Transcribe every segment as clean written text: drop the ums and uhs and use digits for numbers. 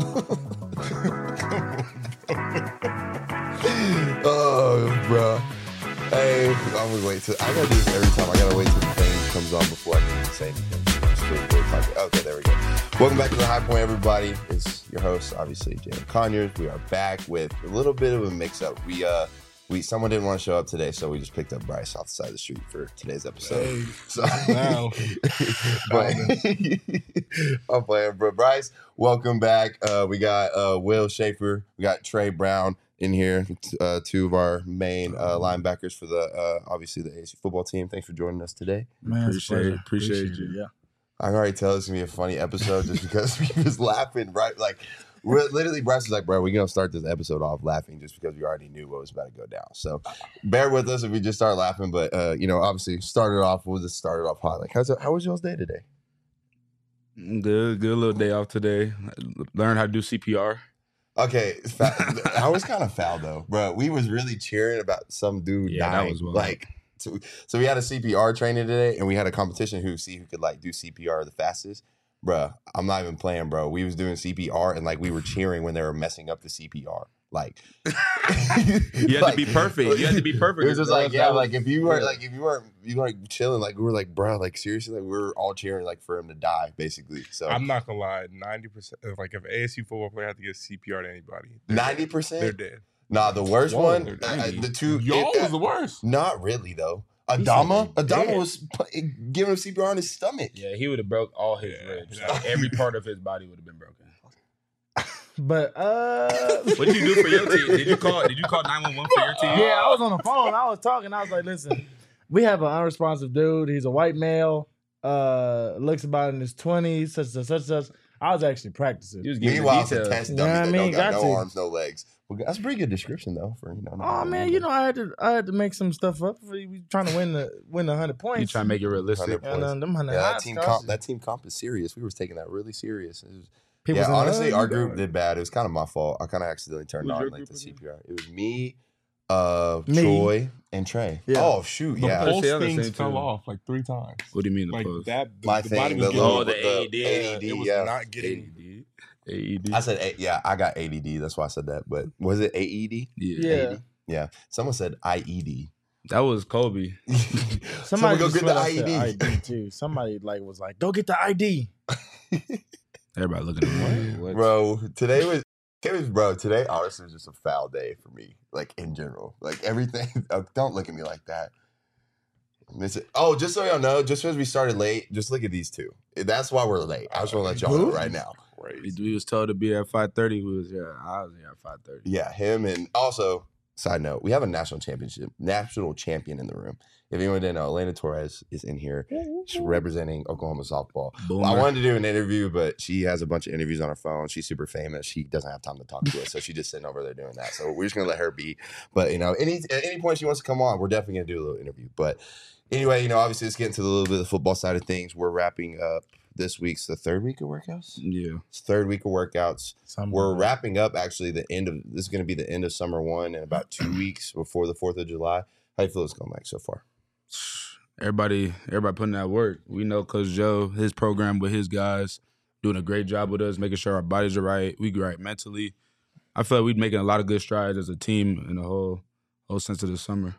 Oh, bro. Hey, I'm gonna wait till I gotta do this every time. I gotta wait till the thing comes on before I can say anything. Okay, there we go. Welcome back to the High Point, everybody. It's your host, obviously, Jalen Conyers. We are back with a little bit of a mix-up. Someone didn't want to show up today, so we just picked up Bryce off the side of the street for today's episode. Hey, So, wow. but I'm playing, bro. Bryce, welcome back. We got Will Schaefer, we got Trey Brown in here, two of our main linebackers for the obviously the ASU football team. Thanks for joining us today. Man, appreciate you. Yeah. I can already tell it's gonna be a funny episode just because we was laughing, right? Like, we're literally, Bryce was like, bro, we're gonna start this episode off laughing just because we already knew what was about to go down. So bear with us if we just start laughing. But obviously we'll just start it off hot. Like, how was y'all's day today? Good little day off today. Learn how to do CPR. Okay, I was kind of foul though, bro. We was really cheering about some dude dying. That was wild. Like, so we had a CPR training today, and we had a competition who could like do CPR the fastest. Bruh, I'm not even playing, bro. We was doing CPR, and like we were cheering when they were messing up the CPR. Like, you had to be perfect. You had to be perfect. It was just like, like if you weren't chilling, like we were like, bro, like seriously, like we were all cheering like for him to die, basically. So I'm not gonna lie, 90%. Like if an ASU football player had to give CPR to anybody, 90%, they're dead. Nah, the worst one, the two. Y'all was the worst. Not really though. Adama was giving him CPR on his stomach. Yeah, he would have broke all his ribs. Yeah. Like, every part of his body would have been broken. But What did you do for your team? Did you call 911 for your team? yeah, I was on the phone. I was talking. I was like, listen, we have an unresponsive dude. He's a white male. Looks about in his 20s, such. I was actually practicing. He was giving Meanwhile, the it's a details. test You know dummy what I that mean? don't got Got no to. arms, no legs. Well, that's a pretty good description though. For Oh man, I had to make some stuff up. We trying to win the 100 points. You trying to make it realistic. 100 And them 100 Yeah, high that team comp is serious. We were taking that really serious. People's in the honestly, hood, our you group got it. did bad. It was kind of my fault. I kind of accidentally turned Who's on your like the group CPR. It was me, Me. Troy, and Trey. Yeah. Oh shoot, The yeah. pulse Yeah, the things same fell too. off like 3 times. What do you mean the Like post? that, My the thing, body the was little- getting the AED. it was yeah. not getting. AED. I said, yeah, I got ADD. That's why I said that. But was it AED? Yeah. Yeah. Someone said IED. That was Kobe. Somebody go just get the flat out said IED. ID too. Somebody was like, go get the ID. Everybody looking at me. What? Bro, today honestly was just a foul day for me, like in general. Like everything, don't look at me like that. Just so y'all know, just because we started late, just look at these two. That's why we're late. I just want to let y'all know right now. We was told to be at 5:30. I was here at 5:30. Yeah, him, and also, side note, we have a national champion in the room. If anyone didn't know, Elena Torres is in here. She's representing Oklahoma softball. Boomer. I wanted to do an interview, but she has a bunch of interviews on her phone. She's super famous. She doesn't have time to talk to us, so she's just sitting over there doing that. So we're just gonna let her be. But at any point she wants to come on, we're definitely gonna do a little interview. But anyway, obviously let's get into a little bit of the football side of things. We're wrapping up this week's the third week of workouts. Yeah. It's third week of workouts. Something We're like that. wrapping up actually this is gonna be the end of summer one in about 2 weeks before the 4th of July. How you feel it's going, Mike, so far? Everybody putting that work. We know Coach Joe, his program with his guys, doing a great job with us, making sure our bodies are right, we right mentally. I feel like we're making a lot of good strides as a team in the whole sense of the summer.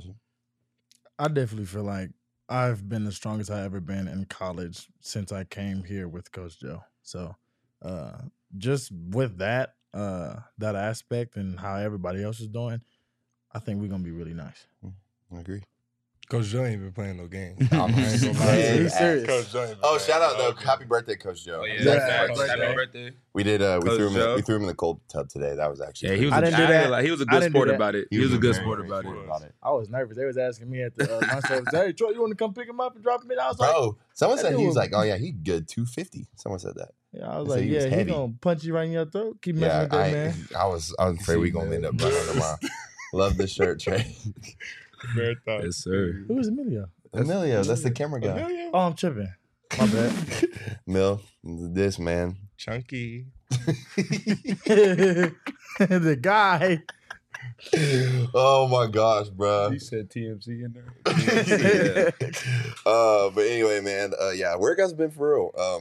I definitely feel like I've been the strongest I've ever been in college since I came here with Coach Joe. So just with that aspect and how everybody else is doing, I think we're going to be really nice. I agree. Coach Joe ain't been playing no games. I'm I ain't gonna lie. dead He's serious. Coach Joe ain't been Oh, playing shout out no though! games. Happy birthday, Coach Joe. Oh, Happy yeah. birthday. Happy birthday. We did. We Coach threw Joe. him in the cold tub today. That was actually. Yeah, he was. I didn't do that. He was a I good didn't do sport that. about it. He was a good very, sport very about sport it. about it. I was nervous. They was asking me at the lunch service, hey, Troy, you want to come pick him up and drop him in? I was like, Bro, someone that said he dude was was- like, "Oh yeah, he good 250." Someone said that. yeah, I was They said like, he was yeah, he heavy. going to punch you right in your throat. Keep messing Yeah, with that, man. I was afraid we gonna end up running tomorrow. Love this shirt, Trey. Marathon. Yes, sir. Who is Emilio? Emilio, that's the camera guy. Emilio? Oh, I'm tripping. My bad. Mil, this man. Chunky. The guy. Oh my gosh, bro. He said TMZ in there. But anyway, man, yeah, workout's been for real.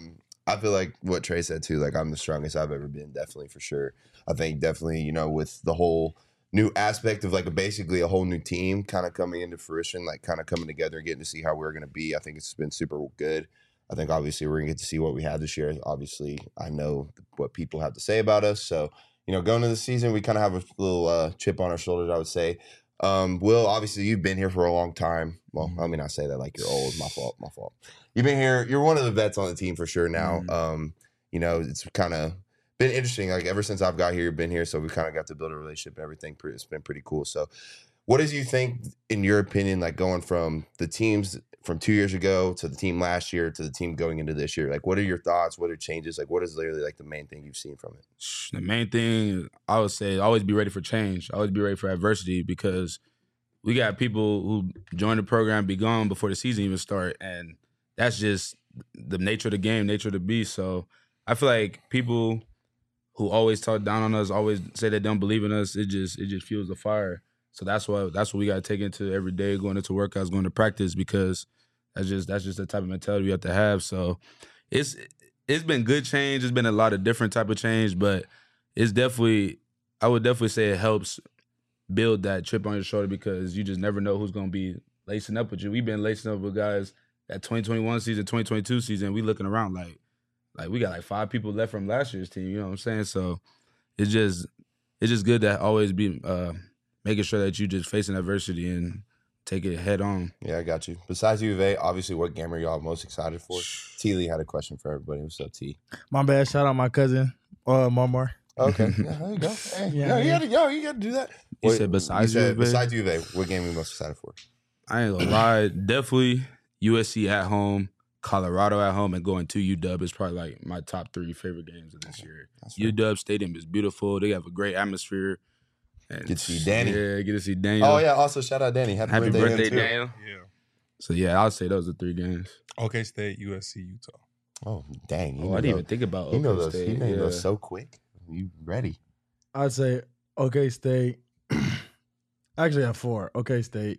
I feel like what Trey said too, like I'm the strongest I've ever been, definitely for sure. I think definitely, you know, with the whole new aspect of like basically a whole new team kind of coming into fruition, like kind of coming together and getting to see how we're going to be. I think it's been super good. I think obviously we're going to get to see what we had this year. Obviously, I know what people have to say about us. So, you know, going into the season, we kind of have a little chip on our shoulders, I would say. Will, obviously you've been here for a long time. Well, I mean, I say that like you're old. My fault. You've been here. You're one of the vets on the team for sure now. You know, it's kind of been interesting. Like ever since I've got here, been here. So we kind of got to build a relationship and everything. It's been pretty cool. So what did you think, in your opinion, like going from the teams from 2 years ago to the team last year to the team going into this year? Like, what are your thoughts? What are changes? Like, what is literally like the main thing you've seen from it? The main thing I would say, always be ready for change. Always be ready for adversity, because we got people who join the program, be gone before the season even start, and that's just the nature of the game, nature of the beast. So I feel like people who always talk down on us, always say they don't believe in us, it just fuels the fire. So that's what we got to take into every day, going into workouts, going to practice, because that's just the type of mentality we have to have. So it's been good change. It's been a lot of different type of change, but it's definitely, I would definitely say it helps build that chip on your shoulder, because you just never know who's going to be lacing up with you. We've been lacing up with guys that 2021 season, 2022 season. We looking around like we got like 5 people left from last year's team. You know what I'm saying? So it's just good to always be making sure that you just facing adversity and take it head on. Yeah, I got you. Besides U of A, obviously, what game are y'all most excited for? T. Lee had a question for everybody. What's up, T? My bad. Shout out my cousin, Marmar. Okay, yeah, there you go. Hey, you got to do that. You said besides U of A? Besides U of A, what game are you most excited for? I ain't gonna lie, definitely USC at home, Colorado at home, and going to UW is probably like my top 3 favorite games of this year. Right. UW Stadium is beautiful. They have a great atmosphere. And get to see Danny. Yeah, get to see Daniel. Oh, yeah. Also, shout out Danny. Happy birthday Daniel. Yeah. So, yeah, I'll say those are 3 games. OK State, USC, Utah. Oh, dang. I didn't even think about OK State. State. You made those so quick. You ready? I'd say OK State. Actually, I have 4. OK State,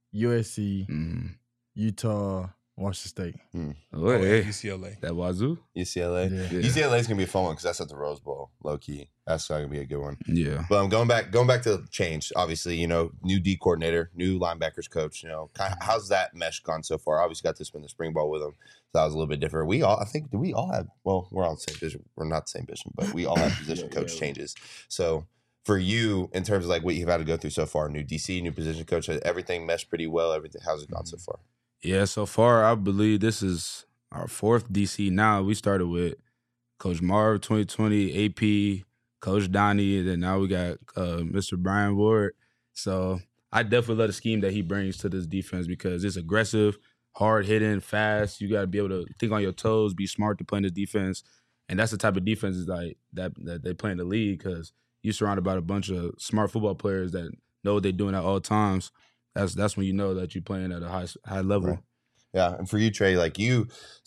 USC, Utah, Washington State. Oh, hey. UCLA. That Wazoo? UCLA. Yeah. UCLA is gonna be a fun one because that's at the Rose Bowl, low key. That's gonna be a good one. Yeah. But I'm going back to change. Obviously, you know, new D coordinator, new linebackers coach. You know, how's that mesh gone so far? Obviously, got to spend the spring ball with them, so that was a little bit different. We all have? Well, we're on the same position. We're not the same position, but we all have position coach changes. So for you, in terms of like what you've had to go through so far, new DC, new position coach, everything meshed pretty well. Everything, how's it gone so far? Yeah, so far, I believe this is our 4th DC now. We started with Coach Marv 2020, AP, Coach Donnie, and then now we got Mr. Brian Ward. So I definitely love the scheme that he brings to this defense, because it's aggressive, hard-hitting, fast. You got to be able to think on your toes, be smart to play in this defense. And that's the type of defense like that they play in the league, because you're surrounded by a bunch of smart football players that know what they're doing at all times. That's when you know that you're playing at a high level. Right. Yeah, and for you, Trey, like you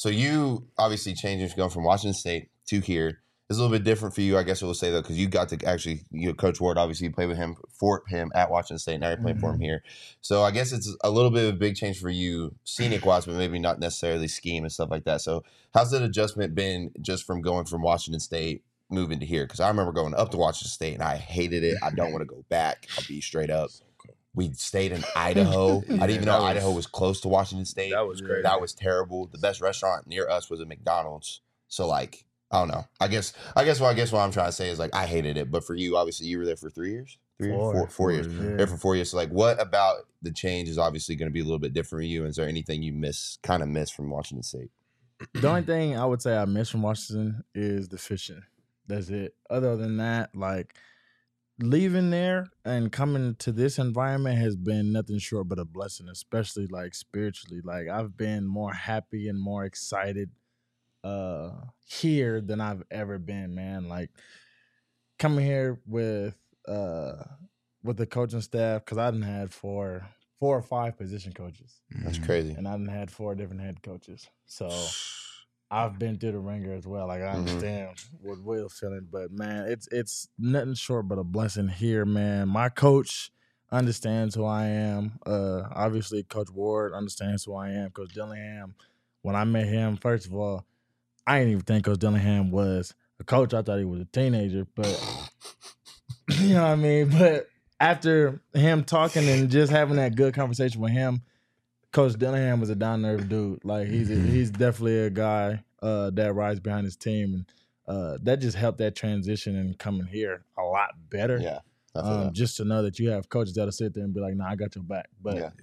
obviously changing going from Washington State to here is a little bit different for you, I guess I will say, though, because you got to actually, Coach Ward, obviously you played with him for him at Washington State, now you're playing for him here. So I guess it's a little bit of a big change for you, scenic-wise, but maybe not necessarily scheme and stuff like that. So how's that adjustment been just from going from Washington State moving to here? Because I remember going up to Washington State and I hated it. I don't want to go back. I'll be straight up. We stayed in Idaho. I didn't even know Idaho was close to Washington State. That was crazy. That was terrible. The best restaurant near us was a McDonald's. So like, I don't know. I guess what I'm trying to say is like I hated it. But for you, obviously, you were there for 3 years. 4 years. Yeah. There for 4 years. So like, what about the change is obviously going to be a little bit different for you? Is there anything you miss from Washington State? The only thing I would say I miss from Washington is the fishing. That's it. Other than that, like, leaving there and coming to this environment has been nothing short but a blessing, especially like spiritually. Like I've been more happy and more excited here than I've ever been, man. Like coming here with the coaching staff, because I done had 4 or 5 position coaches. That's crazy. And I done had 4 different head coaches. So I've been through the ringer as well. Like I understand what Will's feeling, but man, it's nothing short but a blessing here, man. My coach understands who I am. Obviously, Coach Ward understands who I am. Coach Dillingham, when I met him, first of all, I didn't even think Coach Dillingham was a coach. I thought he was a teenager, but you know what I mean? But after him talking and just having that good conversation with him, Coach Dillingham was a down-to-earth dude. Like, he's definitely a guy that rides behind his team. And that just helped that transition and coming here a lot better. Yeah. I feel that. Just to know that you have coaches that'll sit there and be like, nah, I got your back. But Yeah.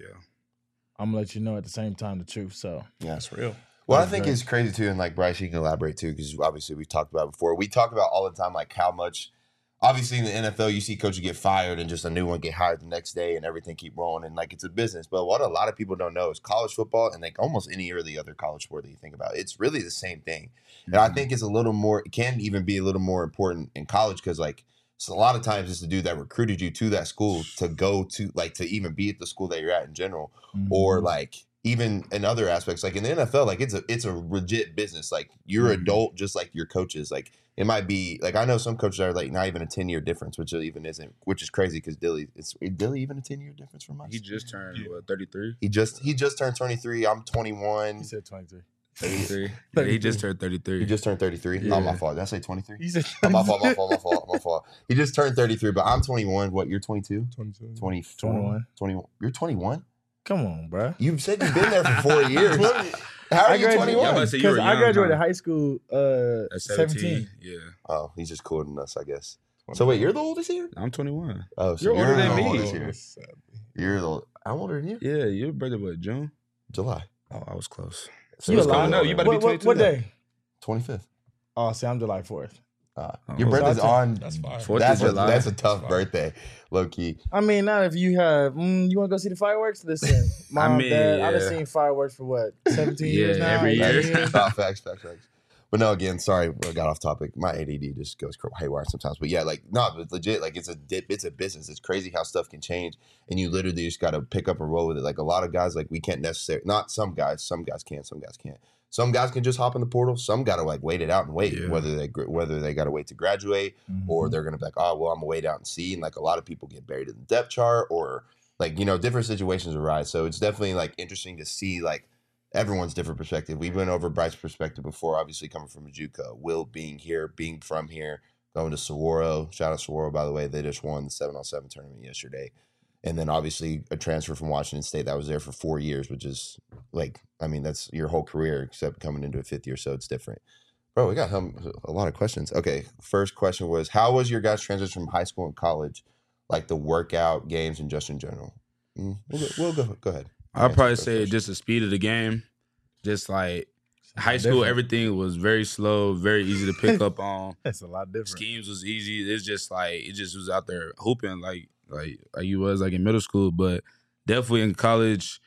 I'm going to let you know at the same time the truth. So, Yeah. That's real. Well, I That's think great. it's crazy too, and like Bryce, you can elaborate too, because obviously we've talked about it before. We talk about all the time like how much, obviously in the NFL, you see coaches get fired and just a new one get hired the next day, and everything keep rolling, and like it's a business. But what a lot of people don't know is college football, and like almost any or the other college sport that you think about, it's really the same thing. And I think it's a little more, it can even be a little more important in college because like so a lot of times it's the dude that recruited you to that school to go to like to even be at the school that you're at in general, or like. Even in other aspects, like in the NFL, like it's a legit business. Like you're adult, just like your coaches. Like it might be like I know some coaches are like not even a 10-year difference, which even isn't, which is crazy because is Dilly even a 10-year difference from us? He just turned 33. He just turned 23. I'm 21. he said 23. 33. Yeah, he just turned 33. He just turned 33. Yeah. Not my fault. Did I say 23? He said My fault. He just turned 33, but I'm 21. What? You're 22? 22. 21. 21. You're 21? Come on, bro. You said you've been there for 4 years. How are you Yeah, 21? but I said you were Because I young, graduated huh? high school At 17. Yeah. Oh, he's just cooler than us, I guess. So wait, you're the oldest here? I'm 21. Oh, so You're older than the me. oldest here. You're the I'm older than you. Yeah, your birthday what, June? July. Oh, I was close. So You it's alive? coming No, up. you about to be What 22 day? 25th. Oh, see, I'm July 4th. Your Oh, birthday's so on. That's fine. 4th That's of a, July. that's a tough That's fine. birthday, low key. I mean, not if you have, you want to go see the fireworks? Listen, Mom, mean, Dad, I've yeah. seen fireworks for what, 17 years Yeah, now? every 18 year. years? Facts. But no, again, sorry, I got off topic. My ADD just goes haywire sometimes. But yeah, like no, but legit, like it's a business. It's crazy how stuff can change, and you literally just got to pick up and roll with it. Like a lot of guys, like we can't necessarily. Not some guys can, some guys can't. Some guys can just hop in the portal. Some got to like wait it out and wait, Yeah. whether they got to wait to graduate or Mhm. they're gonna be like, oh well, I'm gonna wait out and see. And like a lot of people get buried in the depth chart or like different situations arise. So it's definitely like interesting to see like. Everyone's different perspective. We went over Bryce's perspective before, obviously coming from JUCO. Will being here, being from here, going to Saguaro. Shout out Saguaro, by the way. They just won the 7-on-7 tournament yesterday. And then obviously a transfer from Washington State that was there for 4 years, which is like, I mean, that's your whole career except coming into a 5th year, so it's different. Bro, we got a lot of questions. Okay, first question was, how was your guys' transition from high school and college, like the workout, games, and just in general? We'll go ahead. I'll probably Answer say first. just the speed of the game. Just like high school, everything was very slow, very easy to pick up on. That's a lot different. Schemes was easy. It's just like it just was out there hooping like you was like in middle school, but definitely in college,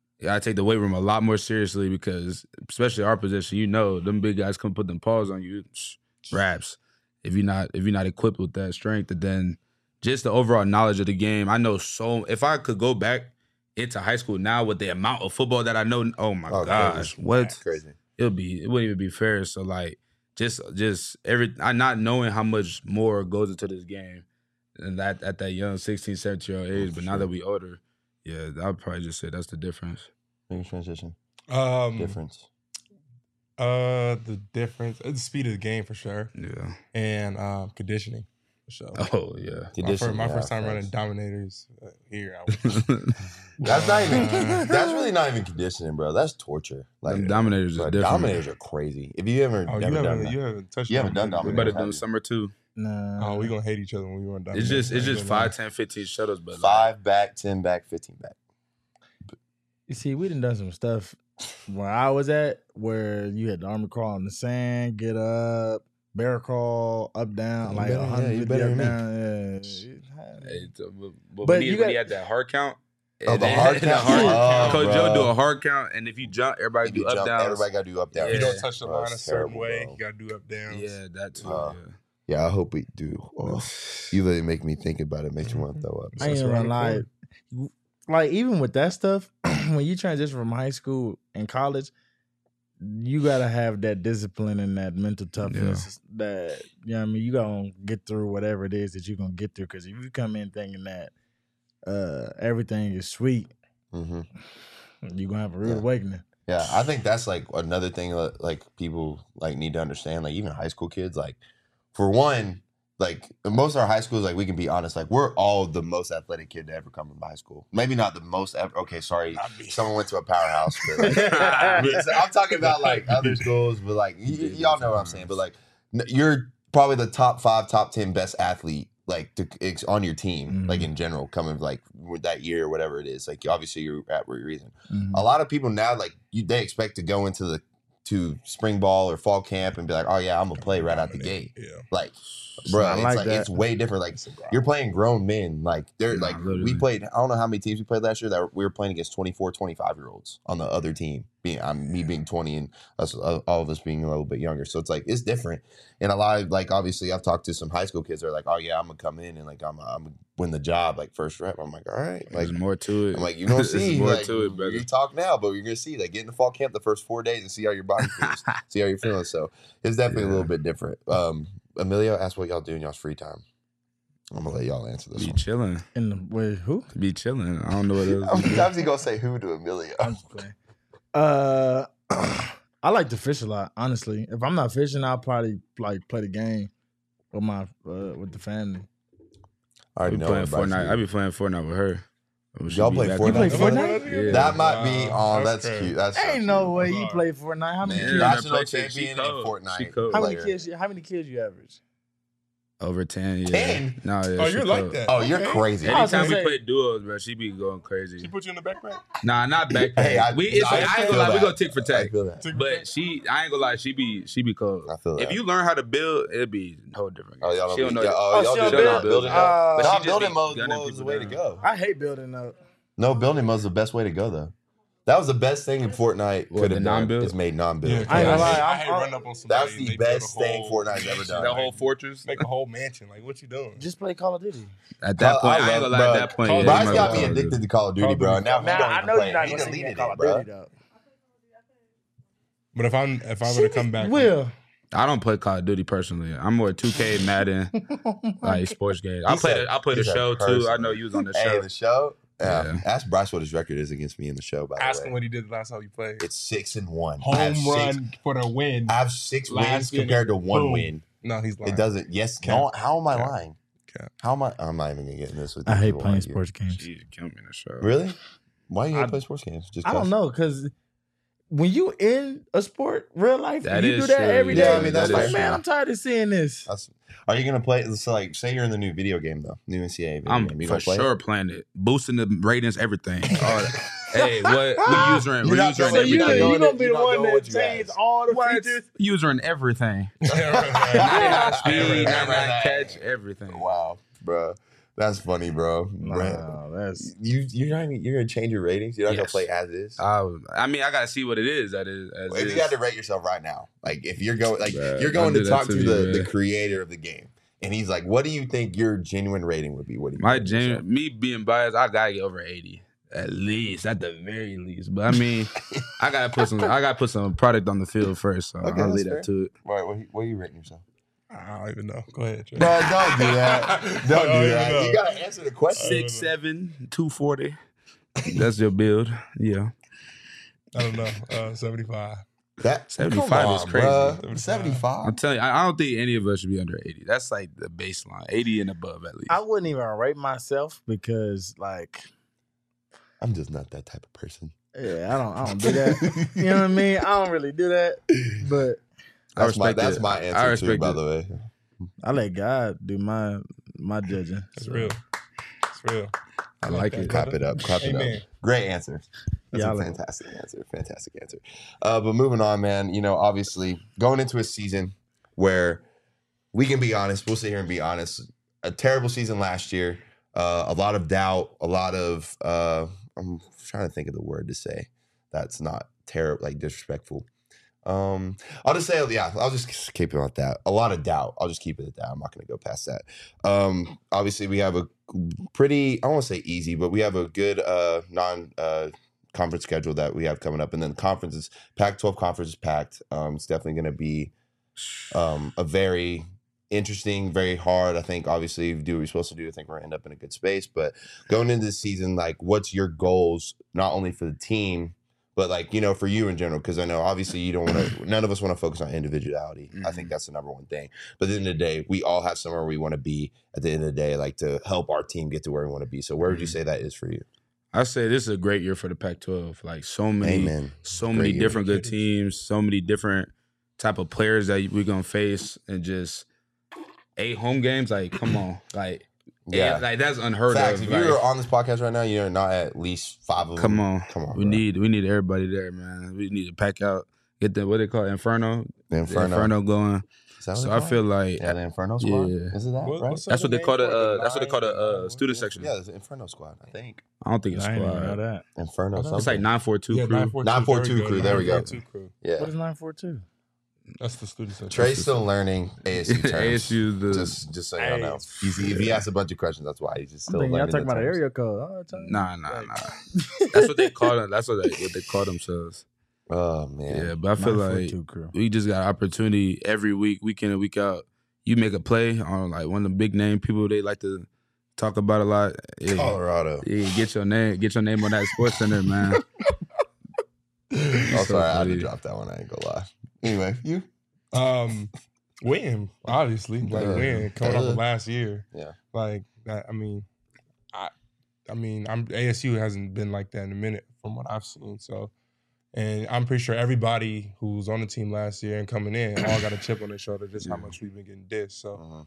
I take the weight room a lot more seriously because especially our position, them big guys come put them paws on you, raps. If you're not equipped with that strength, and then just the overall knowledge of the game, I know so. If I could go back into high school now with the amount of football that I know, oh my gosh, crazy. what Crazy. it wouldn't even be fair. So like just I not knowing how much more goes into this game and that at that young 16, 17-year-old age, but now that we older, yeah, I'd probably just say that's the difference. Biggest transition. Difference. Difference. The difference, the speed of the game for sure, Yeah. and conditioning for sure. Oh yeah. My first time running Dominators here, I was That's not even. That's really not even conditioning, bro. That's torture. Like Them Dominators is bro, different. Dominators are crazy. If you ever Oh, never done that, you haven't touched. You haven't done We Dominators. better have do you? summer too. Nah. Oh, we gonna hate each other when we run Dominators. It's just Like, 5, 10, 15 shuttles, but 5 back, 10 back, 15 back. You see, we done some stuff where I was at where you had to army crawl in the sand, get up, bear crawl, up, down, You like better- yeah, 150 you better up, than me. down. Yeah. but But when you he got- had that hard count. Oh, the and hard the count? hard Oh, count. Coach bro. Joe do a hard count, and if you jump, everybody If do you up jump, down. everybody got to do up down. If you Yeah. don't touch the Bro, line a it's certain terrible, way, bro. you gotta do up downs. Yeah, that too. Uh, yeah. Yeah, I hope we do. Oh, you really make me think about it. Makes me want to throw up. I ain't That's gonna around lie. the Like, even with that stuff, when you transition from high school and college, you gotta have that discipline and that mental toughness that, you know what I mean, you gonna get through whatever it is that you're gonna get through. Because if you come in thinking that everything is sweet, Mm-hmm. you're gonna have a rude Yeah. awakening. Yeah, I think that's like another thing that like people like need to understand. Like even high school kids, like for one, like most of our high schools, like we can be honest, like we're all the most athletic kid to ever come from high school. Maybe not the most ever. Okay, sorry, someone went to a powerhouse. But like, I'm talking about like other schools, but like y'all know what I'm saying. But like you're probably the top 5, top 10 best athlete like on your team, like in general, coming like with that year or whatever it is. Like obviously you're at where you're reason. A lot of people now like they expect to go into spring ball or fall camp and be like, oh yeah, I'm gonna play right out the gate. Yeah. Like, bro, it's like it's way different. Like you're playing grown men. Like they're like literally. We played. I don't know how many teams we played last year that we were playing against 24, 25-year-olds on the other team. Me being 20 and us, all of us being a little bit younger. So it's like it's different. And a lot of like obviously I've talked to some high school kids that are like, oh yeah, I'm gonna come in and like I'm gonna win the job like first rep. I'm like, all right, like there's more to it. I'm like, you gonna see more like, to it, brother. You talk now, but you're gonna see like get in the fall camp the first 4 days and see how your body feels, see how you're feeling. So it's definitely a little bit different. Emilio asked what y'all do in y'all's free time. I'm gonna let y'all answer this. Be chilling. In the way who? Be chilling. I don't know what else. How many times he gonna say who to Emilio? I'm just playing. I like to fish a lot, honestly. If I'm not fishing, I'll probably like play the game with my with the family. I already know Fortnite. I be playing Fortnite with her. Y'all play Fortnite? You play Fortnite? Yeah. That might be on. That's cute. That's ain't no way you play Fortnite. How many kids? National champion in Fortnite. How many kids you average? Over 10, yeah. 10? No, yeah. Oh, you're like that. Oh, you're crazy. Anytime we play duos, bro, she be going crazy. She put you in the backpack? Nah, not backpack. Hey, I ain't gonna lie, we go tick for tack. I feel that. But I ain't gonna lie, she be cold. I feel that. If you learn how to build, it'd be a whole different game. Oh, y'all she don't know. y'all don't do building mode. But Building mode was the way to go. I hate building up. No, building mode is the best way to go though. That was the best thing in Fortnite could have done. Is made non-build. Yeah, I ain't gonna lie. I hate running up on somebody. That's the best thing Fortnite's ever done. That whole fortress. Make a whole mansion. Like, what you doing? Just play Call of Duty. At that point, I ain't gonna lie. At that point, Bryce got me addicted to Call of Duty, bro. Now I know you're not gonna see me Call of Duty though. But if I were to come back, I don't play Call of Duty personally. I'm more 2K, Madden, like sports games. I play the show too. I know you was on the show. Hey, the show. Yeah. Ask Bryce what his record is against me in the show. By the way, ask him what he did the last time you played. It's 6-1. Home run for the win. I have 6 wins compared to 1 win. No, he's lying. It doesn't. Yes. No, how am I lying? Cap. How am I? I'm not even gonna get in this with. I hate playing sports games. She killed me in the show. Really? Why you hate play sports games? Just I don't know, because when you in a sport, real life, that you do that every day. Yeah, I mean that's like, man, I'm tired of seeing this. Are you gonna play? So like, say you're in the new video game though, new NCAA video I'm game. You for sure playing it, boosting the ratings, everything. Hey, what we using everything? So you gonna be the one that change all the features? Using everything. 99 speed, 99 catch, everything. Wow, bro. That's funny, bro. Wow, that's you're gonna change your ratings. You're not gonna play as is. I mean, I gotta see what it is. If you had to rate yourself right now, like if you're going, like you're going to talk to the creator of the game, and he's like, "What do you think your genuine rating would be?" What do you me being biased, I gotta get over 80 at least, at the very least. But I mean, I gotta put some product on the field first. So I'll leave that to it. Right, what are you rating yourself? I don't even know. Go ahead, Trey. Bro, don't do that. Don't do that. You gotta answer the question. 6'7", 240. That's your build. Yeah. I don't know. 75. That 75 is crazy. Bruh. 75. I'm telling you, I don't think any of us should be under 80. That's like the baseline. 80 and above at least. I wouldn't even rate myself because like I'm just not that type of person. Yeah, I don't do that. You know what I mean? I don't really do that. But that's my answer too, by the way. I let God do my judging. It's real. It's real. I like it. Clap it up. Clap it up. Great answer. That's a fantastic answer. Fantastic answer. But moving on, man, you know, obviously going into a season where we can be honest, we'll sit here and be honest. A terrible season last year. A lot of doubt, a lot of I'm trying to think of the word to say that's not terrible, like disrespectful. I'll just say, yeah, I'll just keep it at that. A lot of doubt. I'll just keep it at that. I'm not going to go past that. Obviously, we have a pretty, I won't say easy, but we have a good non-conference schedule that we have coming up. And then conferences, Pac-12 conference is packed. It's definitely going to be a very interesting, very hard. I think, obviously, do what we're supposed to do. I think we're going to end up in a good space. But going into the season, like, what's your goals, not only for the team, But like, you know, for you in general, because I know obviously you don't want to, none of us want to focus on individuality. I think that's the number one thing. But at the end of the day, we all have somewhere we want to be at the end of the day, like to help our team get to where we want to be. So where would you say that is for you? I say this is a great year for the Pac-12. Like so many Great different year. good teams, so many different type of players that we're gonna face, and just 8 home games. Like, come on, like. Yeah, like that's unheard Facts. of. If you're on this podcast right now, you're not at least 5 of them. Come on, bro. We need everybody there, man. We need to pack out, get the what they call it, Inferno. The Inferno going. So I feel like the Inferno Squad. Yeah. Is it that right? That's what they call it. That's what they call the student section. Yeah, it's the Inferno Squad. I think I don't think it's I didn't even know squad. that. Inferno. It's like Something. 942 Yeah, crew. 942 crew, there we go. 942 crew. Yeah. What is 942? That's the student section. Trey's still learning ASU terms. ASU the just so y'all know. If he asks a bunch of questions, that's why he's just still learning. Y'all talking the about an terms. area code? Oh, nah. That's what they call them. That's what they call themselves. Oh man. Yeah, but I feel like 942 crew. we just got opportunity every week, week in and week out. You make a play on like one of the big name people they like to talk about a lot. Yeah, Colorado. yeah, get your name on that Sports Center, man. Oh, sorry, I had to funny. drop that one. I ain't gonna lie. Anyway, you? Win, obviously, like win coming off of last year. Yeah. Like that. I mean, ASU hasn't been like that in a minute from what I've seen. So, and I'm pretty sure everybody who's on the team last year and coming in all got a chip on their shoulder just how much we've been getting dissed. So,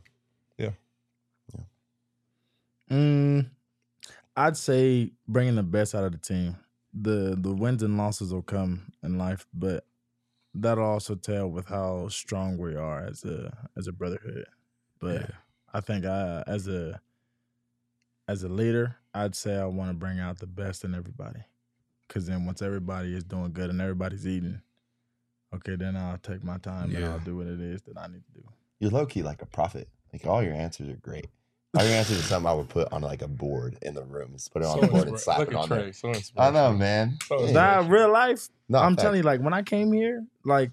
I'd say bringing the best out of the team. The wins and losses will come in life, but that'll also tell with how strong we are as a brotherhood. But I think as a leader, I'd say I want to bring out the best in everybody. Because then once everybody is doing good and everybody's eating, okay, then I'll take my time and I'll do what it is that I need to do. You're low key like a prophet. Like all your answers are great. All your answers are something I would put on like a board in the room. Just put it on the board and slap look it at on Trey. there. So I know, man. Nah, real life. No, I'm fact. telling you, like when I came here, like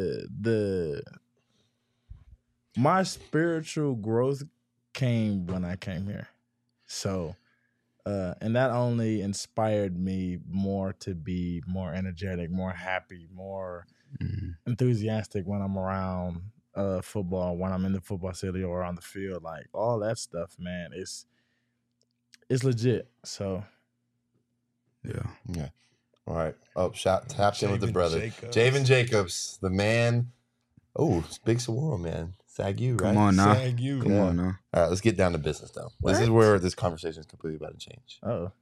my spiritual growth came when I came here. So, and that only inspired me more to be more energetic, more happy, more enthusiastic when I'm around football, when I'm in the football city or on the field. Like all that stuff, man, it's legit. So, Yeah. All right. Oh, tapped in with the Javen brother. Jacobs. Javen Jacobs, the man. Oh, it's big Saguaro, man. SAGU, right? Come on now. Sag you. Come on now. All right, let's get down to business, though. This is What? where this conversation is completely about to change.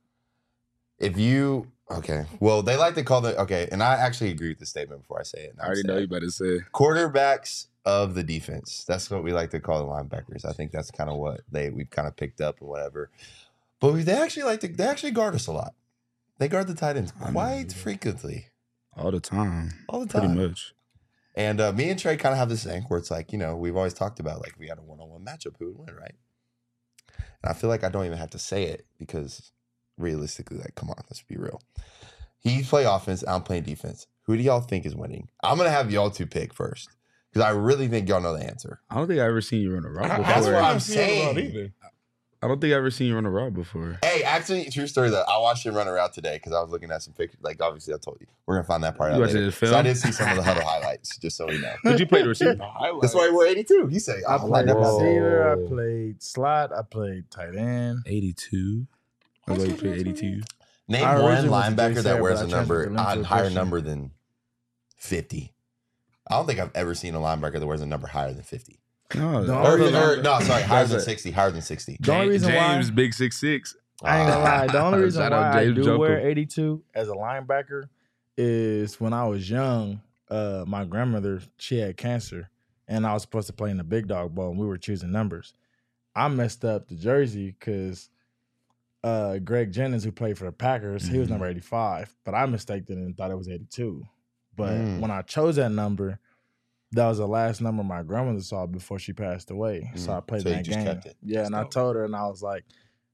oh, Okay. Well, they like to call and I actually agree with the statement before I say it. I already know you about to say. Quarterbacks of the defense. That's what we like to call the linebackers. I think that's kind of what we've kind of picked up or whatever. But they actually guard us a lot. They guard the tight ends quite frequently. All the time. All the time. Pretty much. And me and Trey kind of have this thing where it's like, you know, we've always talked about like we had a one-on-one matchup, who would win, right? And I feel like I don't even have to say it because realistically, like, come on, let's be real. He play offense, I'm playing defense. Who do y'all think is winning? I'm going to have y'all two pick first because I really think y'all know the answer. I don't think I ever seen you run a route before. That's what I'm seen him saying. run either. I don't think I ever seen you run a route before. Hey, actually, true story though. I watched him run around today because I was looking at some pictures. Like, obviously, I told you. We're going to find that part You out watching later. the film? So I did see some of the huddle highlights, just so we know. Did you play the receiver? That's why we're 82. He said, I oh, played never mind. receiver, I Whoa. played slot, I played tight end. 82. I was like, play 82. Name I one originally was linebacker Jay that Sarah, wears but a I number, transferred to a Linfield higher Christian. number than 50. I don't think I've ever seen a linebacker that wears a number higher than 50. No, The Or, only no, sorry, higher than That's it. 60. Higher than 60. The only reason why- James, big 6'6". I ain't gonna lie. The only reason Shout why out I James do Joker. wear 82 as a linebacker is when I was young, my grandmother, she had cancer, and I was supposed to play in the big dog bowl, and we were choosing numbers. I messed up the jersey because Greg Jennings, who played for the Packers, he was number 85, but I mistaked it and thought it was 82. But when I chose that number, that was the last number my grandmother saw before she passed away. So I played So you that just game. kept it. Yeah, and I dope. told her, and I was like,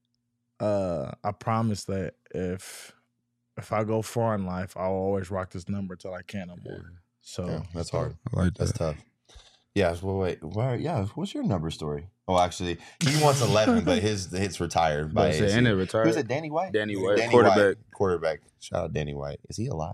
I promise that if I go far in life, I'll always rock this number till I can't no more. So Yeah, that's hard. I like That's that. tough. Yeah, well, wait. Yeah, what's your number story? Oh, actually, he wants 11, but his retired by And it ASU. retired. Who's it? Danny White? Danny White, Danny quarterback. White, quarterback. Shout out Danny White. Is he alive?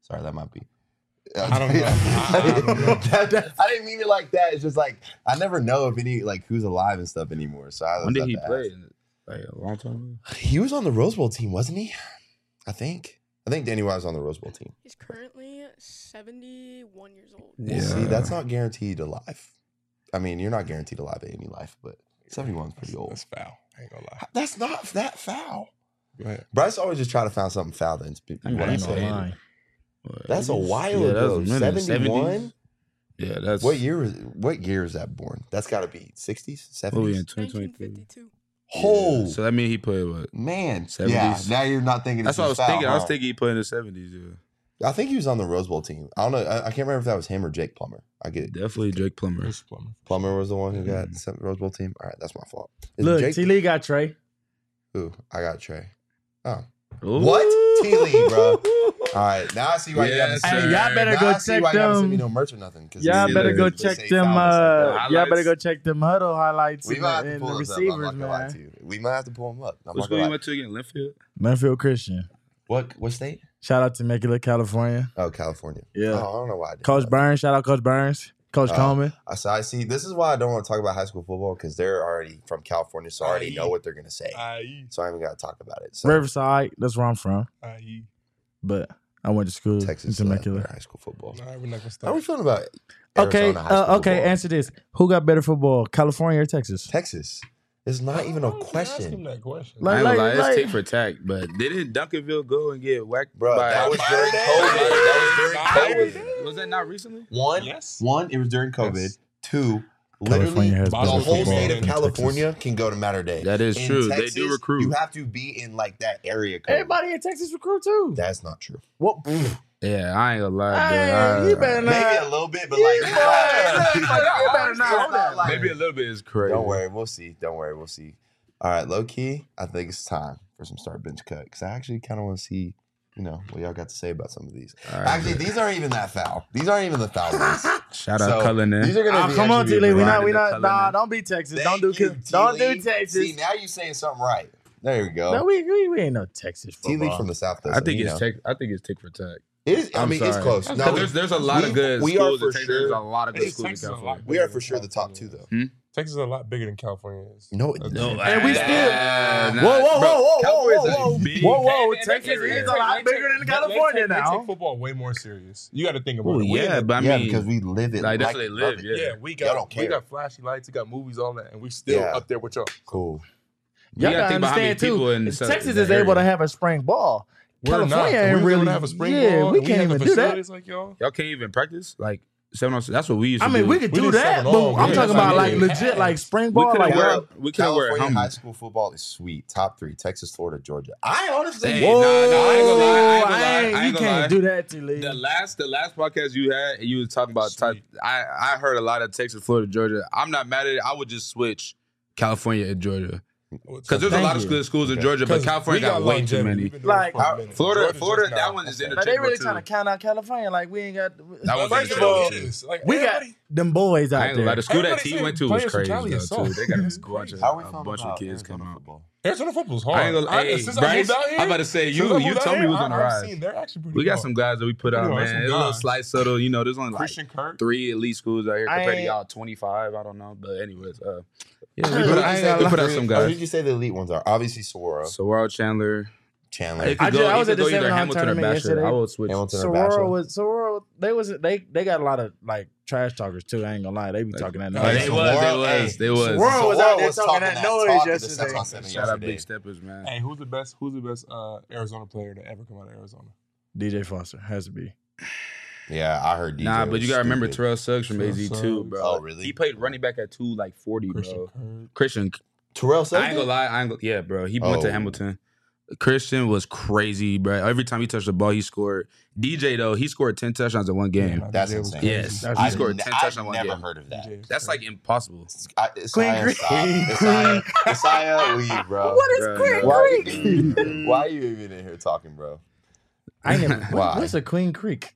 Sorry, that might be. I don't know. I don't know. I didn't mean it like that. It's just like I never know if any like who's alive and stuff anymore. So I When did he have to play? ask. Like a long time ago? He was on the Rose Bowl team, wasn't he? I think Danny White was on the Rose Bowl team. He's currently 71 years old. Yeah. See, that's not guaranteed alive. I mean, you're not guaranteed alive at any life, but 71's pretty old. That's foul. I ain't gonna lie. That's not that foul. Go ahead. Bryce always just try to find something foul. That's I mean, what I I ain't gonna say. lie. That's a while Yeah, ago. that's a minute. 71. Yeah, that's What year is that born? That's got to be 60s, What we in 70s. 2023? 1952. Oh So that means he played what? man, 70s. yeah. Now you're not thinking. That's it's what I was foul, thinking. I was huh? thinking he played in the 70s. Yeah, I think he was on the Rose Bowl team. I don't know. I can't remember if that was him or Jake Plummer. I get it. definitely Jake Plummer. Chris Plummer. Plummer was the one who got the Rose Bowl team. All right, that's my fault. Is Look, Jake? T. Lee got Trey. Ooh, I got Trey. Oh, Ooh. What? T. Lee, bro. All right, now I see why you Yes, got. sir. Hey, y'all better Now go I see check why you haven't sent me them. no merch or nothing. 'Cause Y'all it's better either go they check say them. foul or something. Highlights. Y'all better go check them huddle highlights We in might have the, to in pull the this up. I'm receivers, not gonna lie man. to you. We might have to pull them up. I'm What not school gonna you lie. went to again? Linfield? Linfield Christian. What state? Shout out to Temecula, California. Oh, California. Yeah. Oh, I don't know why I did Coach that. Burns. Shout out Coach Burns. Coach Coleman. I see. This is why I don't want to talk about high school football because they're already from California, so I already know what they're gonna say. IE. So I ain't even got to talk about it. So Riverside. That's where I'm from. IE. But I went to school Texas in better Temecula. high school football. All right, we're not gonna How are start. we feeling about Okay. Arizona high school Okay. football? Answer this. Who got better football, California or Texas? Texas. It's not even a Ask him question, that question. Like- I ain't gonna lie, like- it's tick for tack, but didn't Duncanville go and get whacked bro. by That was during COVID. Was that not recently? One, Yes. it was during COVID. Yes. Two, California literally, has the better whole football state than of California can go to Matter Day. That is In true. Texas, They do recruit. You have to be in like that area code. Everybody in Texas recruit too. That's not true. What? Yeah, I ain't gonna lie. Hey, bro. you better not. Maybe a little bit, but You like, better not know that. like- Maybe a little bit is crazy. Don't worry, we'll see. Don't worry, we'll see. All right, low key, I think it's time for some start bench cut because I actually kind of want to see, what y'all got to say about some of these. All right, Actually, these aren't even that foul. These aren't even the foul ones. shout So, out Cullinan. These are gonna be Come on, actually T. Lee. be We pretty not. Cullinan. Nah, don't be Texas. Thank Don't you, do. Don't T. do Texas. See, now you're saying something right. There you go. No, we ain't no Texas T. Lee football. from the South. Though, I so think you it's know. tick for tack. It is, I I'm mean, it's sorry. close. No, There's a lot of good we are schools for in Texas. There's sure. a lot of good Texas schools in is a lot California. We are for sure the top two, though. Texas is a lot bigger than California is. No, And we still. Nah, Whoa, Cowboys whoa. are big. Whoa, They- Texas they- is a they- lot they bigger take- than they California take- They now. take football way more serious. You got to think about Oh it. We yeah, in but I yeah, mean, because we live it. like, that's like what they love live, it. yeah. we Y'all don't got we care. got flashy lights, we got movies, all that, and we still Yeah. up there with y'all. Cool. you Y'all gotta gotta think about how many understand people in too. the Texas the is able to area. have a spring ball. We're not. California ain't We don't really have a spring yeah, ball, we and can't have even the do that. facilities like y'all. Y'all can't even practice like 7-on-6. That's what we used to I mean, do. we could We do did that, 7 but on, I'm yeah, talking that's about what like we did. legit, like spring We ball. could've Like, wear- yo, we couldn't wear California high helmets. school football is sweet. Top 3: Texas, Florida, Georgia. I honestly, Hey, whoa, nah, I ain't gonna lie, I ain't gonna lie, I ain't you gonna can't lie. do that, T. Lee. The last podcast you had, you was talking about type. Sweet. I heard a lot of Texas, Florida, Georgia. I'm not mad at it. I would just switch California and Georgia because there's a Thank lot of you. good schools in Okay. Georgia, but California got way too many. Like, Florida, that one is Like, they interchangeable really too. trying to count out California. Like, we ain't got. That was First of interchangeable all, too. we got them boys I out ain't gonna lie. there. The school that Everybody T say went to was players from crazy Cali though are too. soft. They got It's a bunch of how are we a feeling bunch about of kids Arizona come out. football? Arizona football's hard. I ain't gonna. Hey, Since I Bryce, moved out here, I'm about to say since you I moved out told me here, we was on the I've rise. seen they're actually pretty We got hard. some guys that we put out, Pretty hard, man. some It's a little guys. slight subtle. There's only like Christian Kirk. 3 elite schools out here I compared to ain't- y'all 25. I don't know, but anyways, yeah, Who we did put you out, say we the put out three- some Who guys. did you say the elite ones are? Obviously, Saguaro, Saguaro, Chandler. Chandler. It I could go, was it at could the go either 7-on Hamilton or tournament Bachelor. yesterday. I would switch. Hamilton or Bachelor. Saguaro they got a lot of like trash talkers too. I ain't gonna lie, they be talking that Oh, noise. they Saguaro, was. Saguaro was Saguaro out there was talking that noise talk to the yesterday. 7-on-7 Shout out yesterday. Big Steppers, man. Hey, who's the best Arizona player to ever come out of Arizona? DJ Foster has to be. Yeah, I heard DJ. Nah, but was you gotta remember stupid. Terrell Suggs from Terrell AZ too, Suggs. bro. Oh, really? He played running back at 240, Christian bro. Kirk. Christian, Terrell Suggs. I ain't gonna lie, yeah, bro. He went Oh. to Hamilton. Christian was crazy, bro. Every time he touched the ball, he scored. DJ though, he scored 10 touchdowns in one game. Yeah, That's DJ was insane. crazy. Yes. That's He I've scored 10 touchdowns in I've one never game. heard of that. DJ was That's crazy. like impossible. Isaiah, Queen stop. Creek. Isaiah, leave, bro. What is Bro, Queen no. Why, why are you even in here talking, bro? I ain't never. Why? What's a Queen Creek?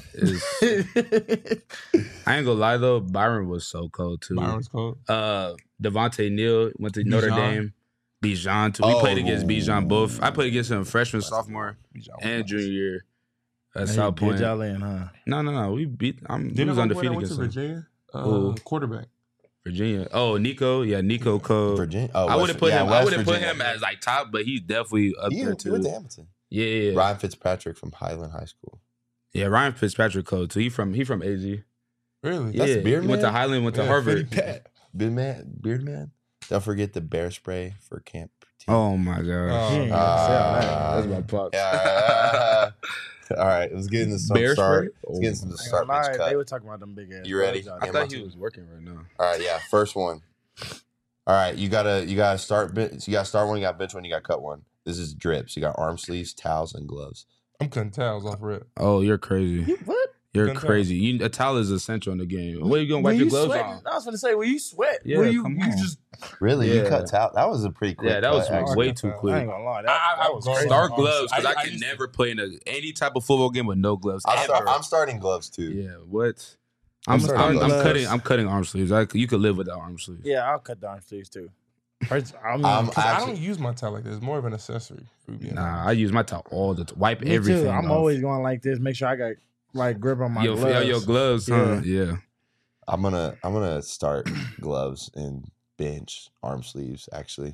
It's- I ain't gonna lie though, Byron was so cold too. Byron's cold. Devontae Neal went to Notre Bijan. Dame. Bijan too. We Oh. played against Bijan both. I played against him freshman, sophomore, Bijan was and nice. junior year. At He South did Point. y'all in, huh? No. We beat. We Didn't was I undefeated went to against them. Virginia? Quarterback. Virginia. Oh, Nico. Yeah, Nico Cole. Virginia. Oh, I wouldn't put him. I West wouldn't put Virginia. him as like top, but he's definitely up He there went too. to Hamilton. Yeah. Ryan Fitzpatrick from Highland High School. Yeah, Ryan Fitzpatrick Cole too. He from AZ. Really? That's Yeah, Beard he went to Man? Highland, went to Yeah, Harvard. Fitty Pat. Beard man. Don't forget the bear spray for camp. Oh my gosh. Oh, He ain't gonna sell that. That's my pops. Yeah. All right, let's get into some Bear start. spray? Let's get into some I ain't start gonna pitch lie, cut. they were talking about them big ass. You ready? bugs out I Yeah, there. thought he was working right now. All right, yeah. First one. All right, you gotta start. You gotta start one. You got bench one. You got cut one. This is drips. You got arm sleeves, towels, and gloves. I'm cutting towels off rip. Oh, you're crazy. You what? You're Couldn't crazy. A towel is essential in the game. What are you gonna When wipe your you gloves sweat, on? I was gonna say, when you sweat, Yeah, when you come you on. just Really? You Yeah. cut towel? That was a pretty quick. Yeah, that cut, was actually. way cut too towel. I quick. ain't gonna lie. I That was go crazy. Start Arms. gloves because I I can used to- never play in any type of football game with no gloves. Ever. I'm starting gloves too. Yeah, what? I'm starting gloves. I'm cutting arm sleeves. You could live without arm sleeves. Yeah, I'll cut the arm sleeves too. First, I mean, I'm 'Cause I actually- don't use my towel like this. It's more of an accessory. For being Nah, I honest. use my towel all the time. Wipe me everything. too. I'm off. always going like this. Make sure I got like grip on my gloves. Your gloves, huh? Yeah. I'm gonna start gloves and bench arm sleeves. Actually,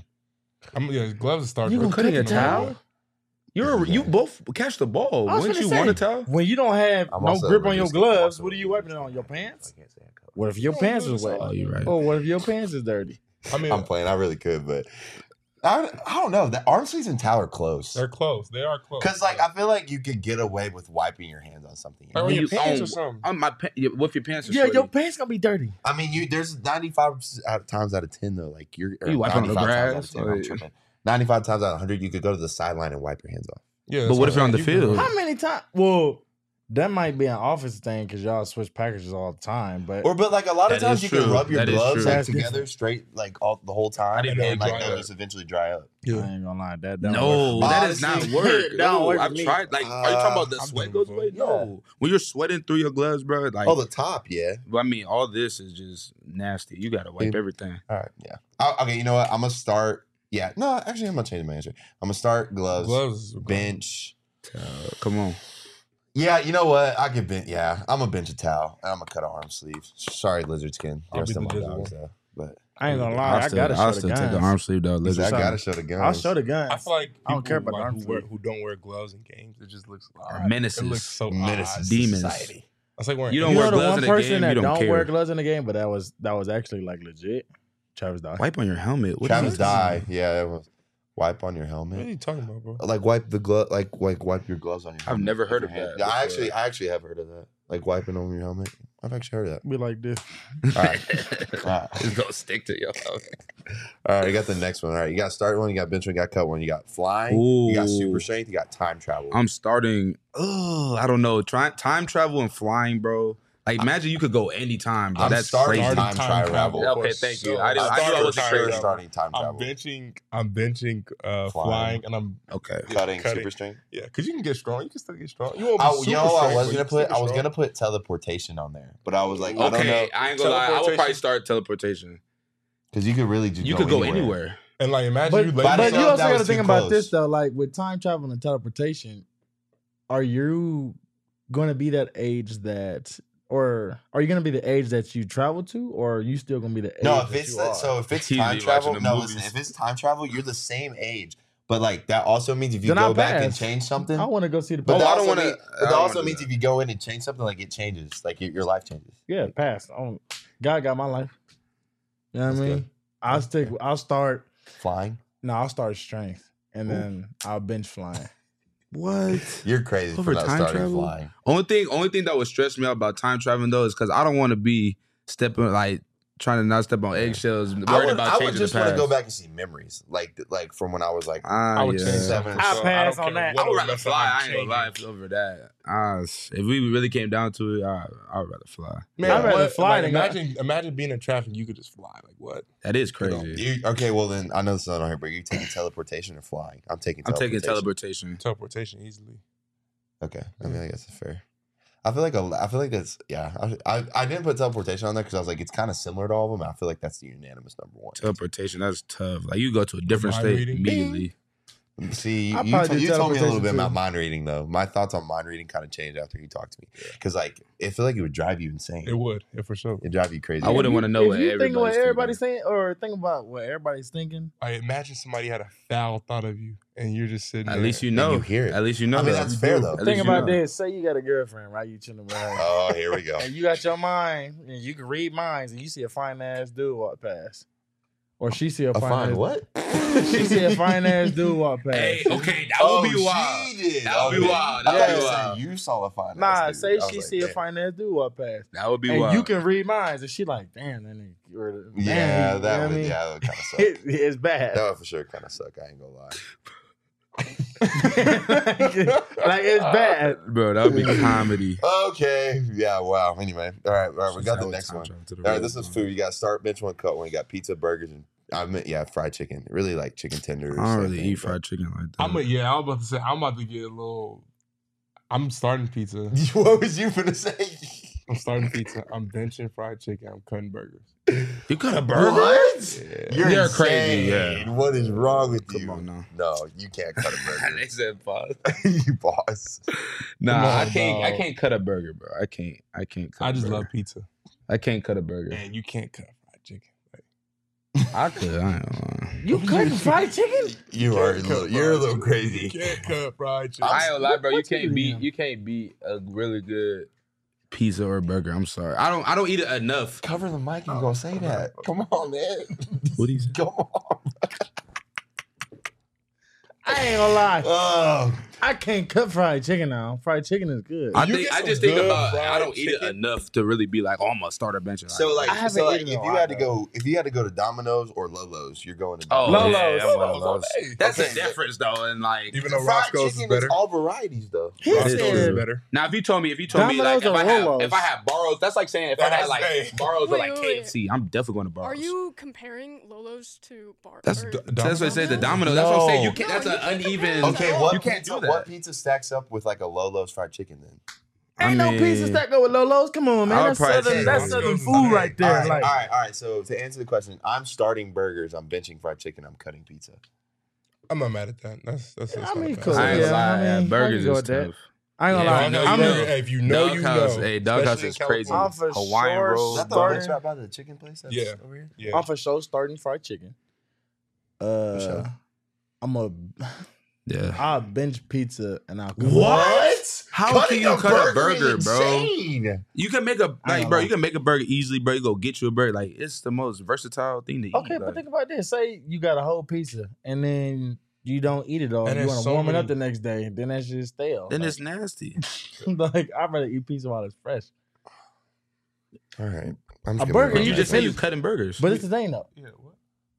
Gloves start. You gonna Cutting a cut the towel? You both catch the ball. I was Wouldn't gonna you say, want a towel? when you don't have I'm no also grip on your reducing- gloves, I'm also what are you wiping it reducing- on? Your pants? I can't say I cut. What if your Yeah, pants do is the wet? Oh, you're right. Oh, what if your pants is dirty? I mean, I'm playing. I really could, but I don't know. The arm sleeves and towel are close. they're close. They are close. Because I feel like you could get away with wiping your hands on something. Like on When your you- pants oh, or something. What if your pants are Yeah, sweaty? your pants gonna be dirty. I mean, there's 95 times out of 10 though. Like you're You wipe on the 95 times out grass, of 10, I'm like- tripping. 95 times out of 100, you could go to the sideline and wipe your hands off. Yeah, But that's what if you're on the I'm saying. field? How many times? Well, that might be an office thing because y'all switch packages all the time. But But like a lot of That times is you can true. rub your That is gloves true. like That's together different. straight like all the whole time, didn't and know then it like dry they'll up. just eventually dry up. I ain't gonna lie, that don't No, work. that is not Honestly, work. that don't No, work for I've me. tried. Like, are you talking about the I've sweat done it goes away? before. No, when you're sweating through your gloves, bro. Like, Oh, the top, yeah. I mean, all this is just nasty. You gotta wipe Yeah. everything. All right, yeah. Okay, you know what? I'm gonna start. Yeah, no, actually, I'm gonna change my answer. I'm gonna start gloves, Gloves. bench. Come on. Yeah, you know what? I can bench. Yeah, I'm gonna bench a towel and I'm gonna cut an arm sleeve. Sorry, lizard skin. I'll Rest be of my the lizard dogs though. But I ain't gonna lie, I still, gotta I'll show still the take the guns. arm sleeve though. I Lizard. gotta show the guns. I'll show the guns. I feel like I don't care people, about the like, arm sleeve. who don't wear gloves in games. It just looks Are menaces. It looks so Menaces odd. to Demons. society. It's like wearing. You don't You wear know the gloves one in a person game, that you don't don't care. wear gloves in the game, but that was actually like legit. Travis Dye. Wipe on your helmet. What Travis is this? Dye. Yeah, it was. Wipe on your What are helmet. you talking about, bro? Like wipe the glove. Like wipe your gloves on your. I've helmet never with heard your of hand. that Yeah, I before. actually have heard of that. Like wiping on your helmet. I've actually heard of that. Be like this. All right. All right. It's gonna stick to your helmet. All right, you got the next one. All right, you got start one, you got bench one, you got cut one, you got flying, you got super Ooh. strength, you got time travel. I'm starting. I don't know. Time travel and flying, bro. Like, imagine you could go anytime, bro. I'm That's starting crazy. time travel. Okay, thank you. I I'm knew I was for crazy. sure starting time I'm travel. benching flying, and I'm Okay. Cutting Cutting. super strength. yeah, because you can get strong. You can still get strong. You won't be Oh, super you know what I strong, was but gonna you can put? still I get was strong. gonna put teleportation on there, but I was like, I don't know, Okay, I ain't gonna lie. I would probably Teleportation. start teleportation. because you could really just You could go anywhere. And like, imagine But, you by lay but the you time, also that got to was think too about close. this though. Like with time travel and teleportation, are you going to be that age that, or are you going to be the age that you travel to, or are you still going to be the age No, that if it's you are? so, if it's He's time watching travel, the no, movies. listen, if it's time travel, you're the same age. But like that also means if you Then go I'll back and pass. change something, I want to go see the. but Oh, that I also, don't wanna- mean, I but don't that also wanna do means that. if you go in and change something, like it changes, like your life changes. Yeah, pass. God got my life. You know what I That's mean? good. I'll stick. I'll start. Flying, No, I'll start strength, and then I'll bench flying. What? you're crazy Over for not time starting travel? flying. Only thing that would stress me out about time traveling though is because I don't want to be trying to not step on eggshells, worried about I changing would just the want past. to go back and see memories, like from when I was like, I would yeah. change Seven. something. I'll so pass don't on care that. what I would it rather was, fly. I'm I ain't gonna lie changing. over that. If we really came down to it, I would rather fly. Man, I'd rather what? fly Like, than imagine being in traffic. You could just fly. Like what? That is crazy. okay, well then I know this is not on here, but you're taking teleportation or flying. I'm taking I'm teleportation. taking teleportation. Teleportation easily. Okay, I mean I guess it's fair. I feel like that's I didn't put teleportation on there because I was like it's kind of similar to all of them. I feel like that's the unanimous number one. Teleportation, that's tough. Like you go to a different Mind state reading. immediately. See, I you probably do told me a little bit teleportation, about too. mind reading though. My thoughts on mind reading kind of changed after he talked to me because like I feel like it would drive you insane. It would, yeah, for sure. It'd drive you crazy. I wouldn't want to know what If you think what everybody's everybody's thinking. saying, or think about what everybody's thinking. I imagine somebody had a foul thought of you, and you're just sitting. At there. least you And know. you hear it. At least you know. I mean, that. that's fair though. At Think least you about know. this. Say you got a girlfriend, right? You chilling with her. Oh, here we go. And you got your mind, and you can read minds, and you see a fine ass dude walk past, or she see a A fine fine ass what? She see a fine ass dude walk past. Hey, okay, that would be wild. She did. That would be Okay. wild. I That thought would you be said wild. you saw a fine. Nah, ass dude. say I was she like, see a damn. fine ass dude walk past, That would be and wild. you can read minds, and she like, damn, that nigga. Or, damn, Yeah, you know that what would. I mean? Yeah, that would kind of suck. It's bad. That would for sure kind of suck. I ain't gonna lie. like it's bad. Bro, that would be comedy. Okay. Yeah. Wow. Anyway. All right. We got the next one. All right. This is food. You got start, bench one, cut one. You got pizza, burgers, and I meant fried chicken. Really like chicken tenders. I don't really same eat thing, fried chicken like that. I was about to say, I'm about to get a little. I'm starting pizza. but- What was you finna say? I'm starting pizza. I'm benching fried chicken. I'm cutting burgers. You cut a burger? What? Yeah. You're insane. crazy, yeah. What is wrong with you? Come on now. No, you can't cut a burger. They said pause. You boss. Nah, Come on, I can't. I dog. can't cut a burger, bro. I can't. Cut I a just burger. love pizza. I can't cut a burger. And you can't cut fried chicken. Like, I could. I ain't gonna lie. You cutting fried chicken? You're a little you crazy. can't cut fried chicken. I ain't gonna lie, bro. You What you can't beat. doing? You can't beat a really good pizza or burger. I'm sorry. I don't eat it enough. Cover the mic and go say that. Come on, man. What do you say? Come on. I ain't gonna lie. Oh, I can't cut fried chicken now. Fried chicken is good. I You think. get I some just think good about. I fried don't eat it chicken. enough to really be like, oh, I'm gonna start a bench. And so like, I haven't if eaten in a you while, had to go, if you had to go to Domino's or Lolo's, you're going to Oh, Domino's. Lolo's. yeah, I'm one of those. Hey, That's Okay, the difference, though. And like, even though Fried Roscoe's is chicken better. is all varieties though. He Roscoe's is said, better. now if you told me like Domino's if or I have Lolo's? Barrows, that's like saying if I had like Hey. Barrows or Wait, like wait, KFC, I'm definitely going to Barrows. Are you comparing Lolo's to bar? That's or- that's what I said. The Domino's? Domino's. That's what I'm saying. You No. can't. No, That's you an can't uneven. compare Okay, No, what you can't pizza? do that. What pizza stacks up with like a Lolo's fried chicken then? ain't no pizza stack go with Lolo's. Come on, I man. would That's probably southern, say that's Roscoe's southern is food better. right there. All Like, right. So to answer the question, I'm starting burgers. I'm benching fried chicken. I'm cutting pizza. I'm not mad at that. That's I mean, not cool. bad. I ain't Yeah, gonna lie. I mean, burgers I can go is with that. tough. I ain't gonna Yeah, lie. I know I'm you a- know. If you know, you Doghouse, know. hey, Doghouse Especially is in crazy. California. I'm for Hawaiian sure rolls. Is that the starting- bench right by the chicken place? That's Yeah. over here. Yeah. I'm for sure starting fried chicken. sure. Yeah. I'll bench pizza and I'll cook. What? How can you cut a burger, is bro? insane. You can make a I ain't bro. gonna You can make a burger easily, bro. You go get you a burger. Like it's the most versatile thing to eat. Okay, but like. think about this. Say you got a whole pizza and then you don't eat it all. And You there's want to so warm it many- up the next day. Then that's just stale. then like, it's nasty. like I'd rather eat pizza while it's fresh. All right. I'm A burger, You Yeah, just say it you is- cutting burgers. But it's the thing though. Yeah, what?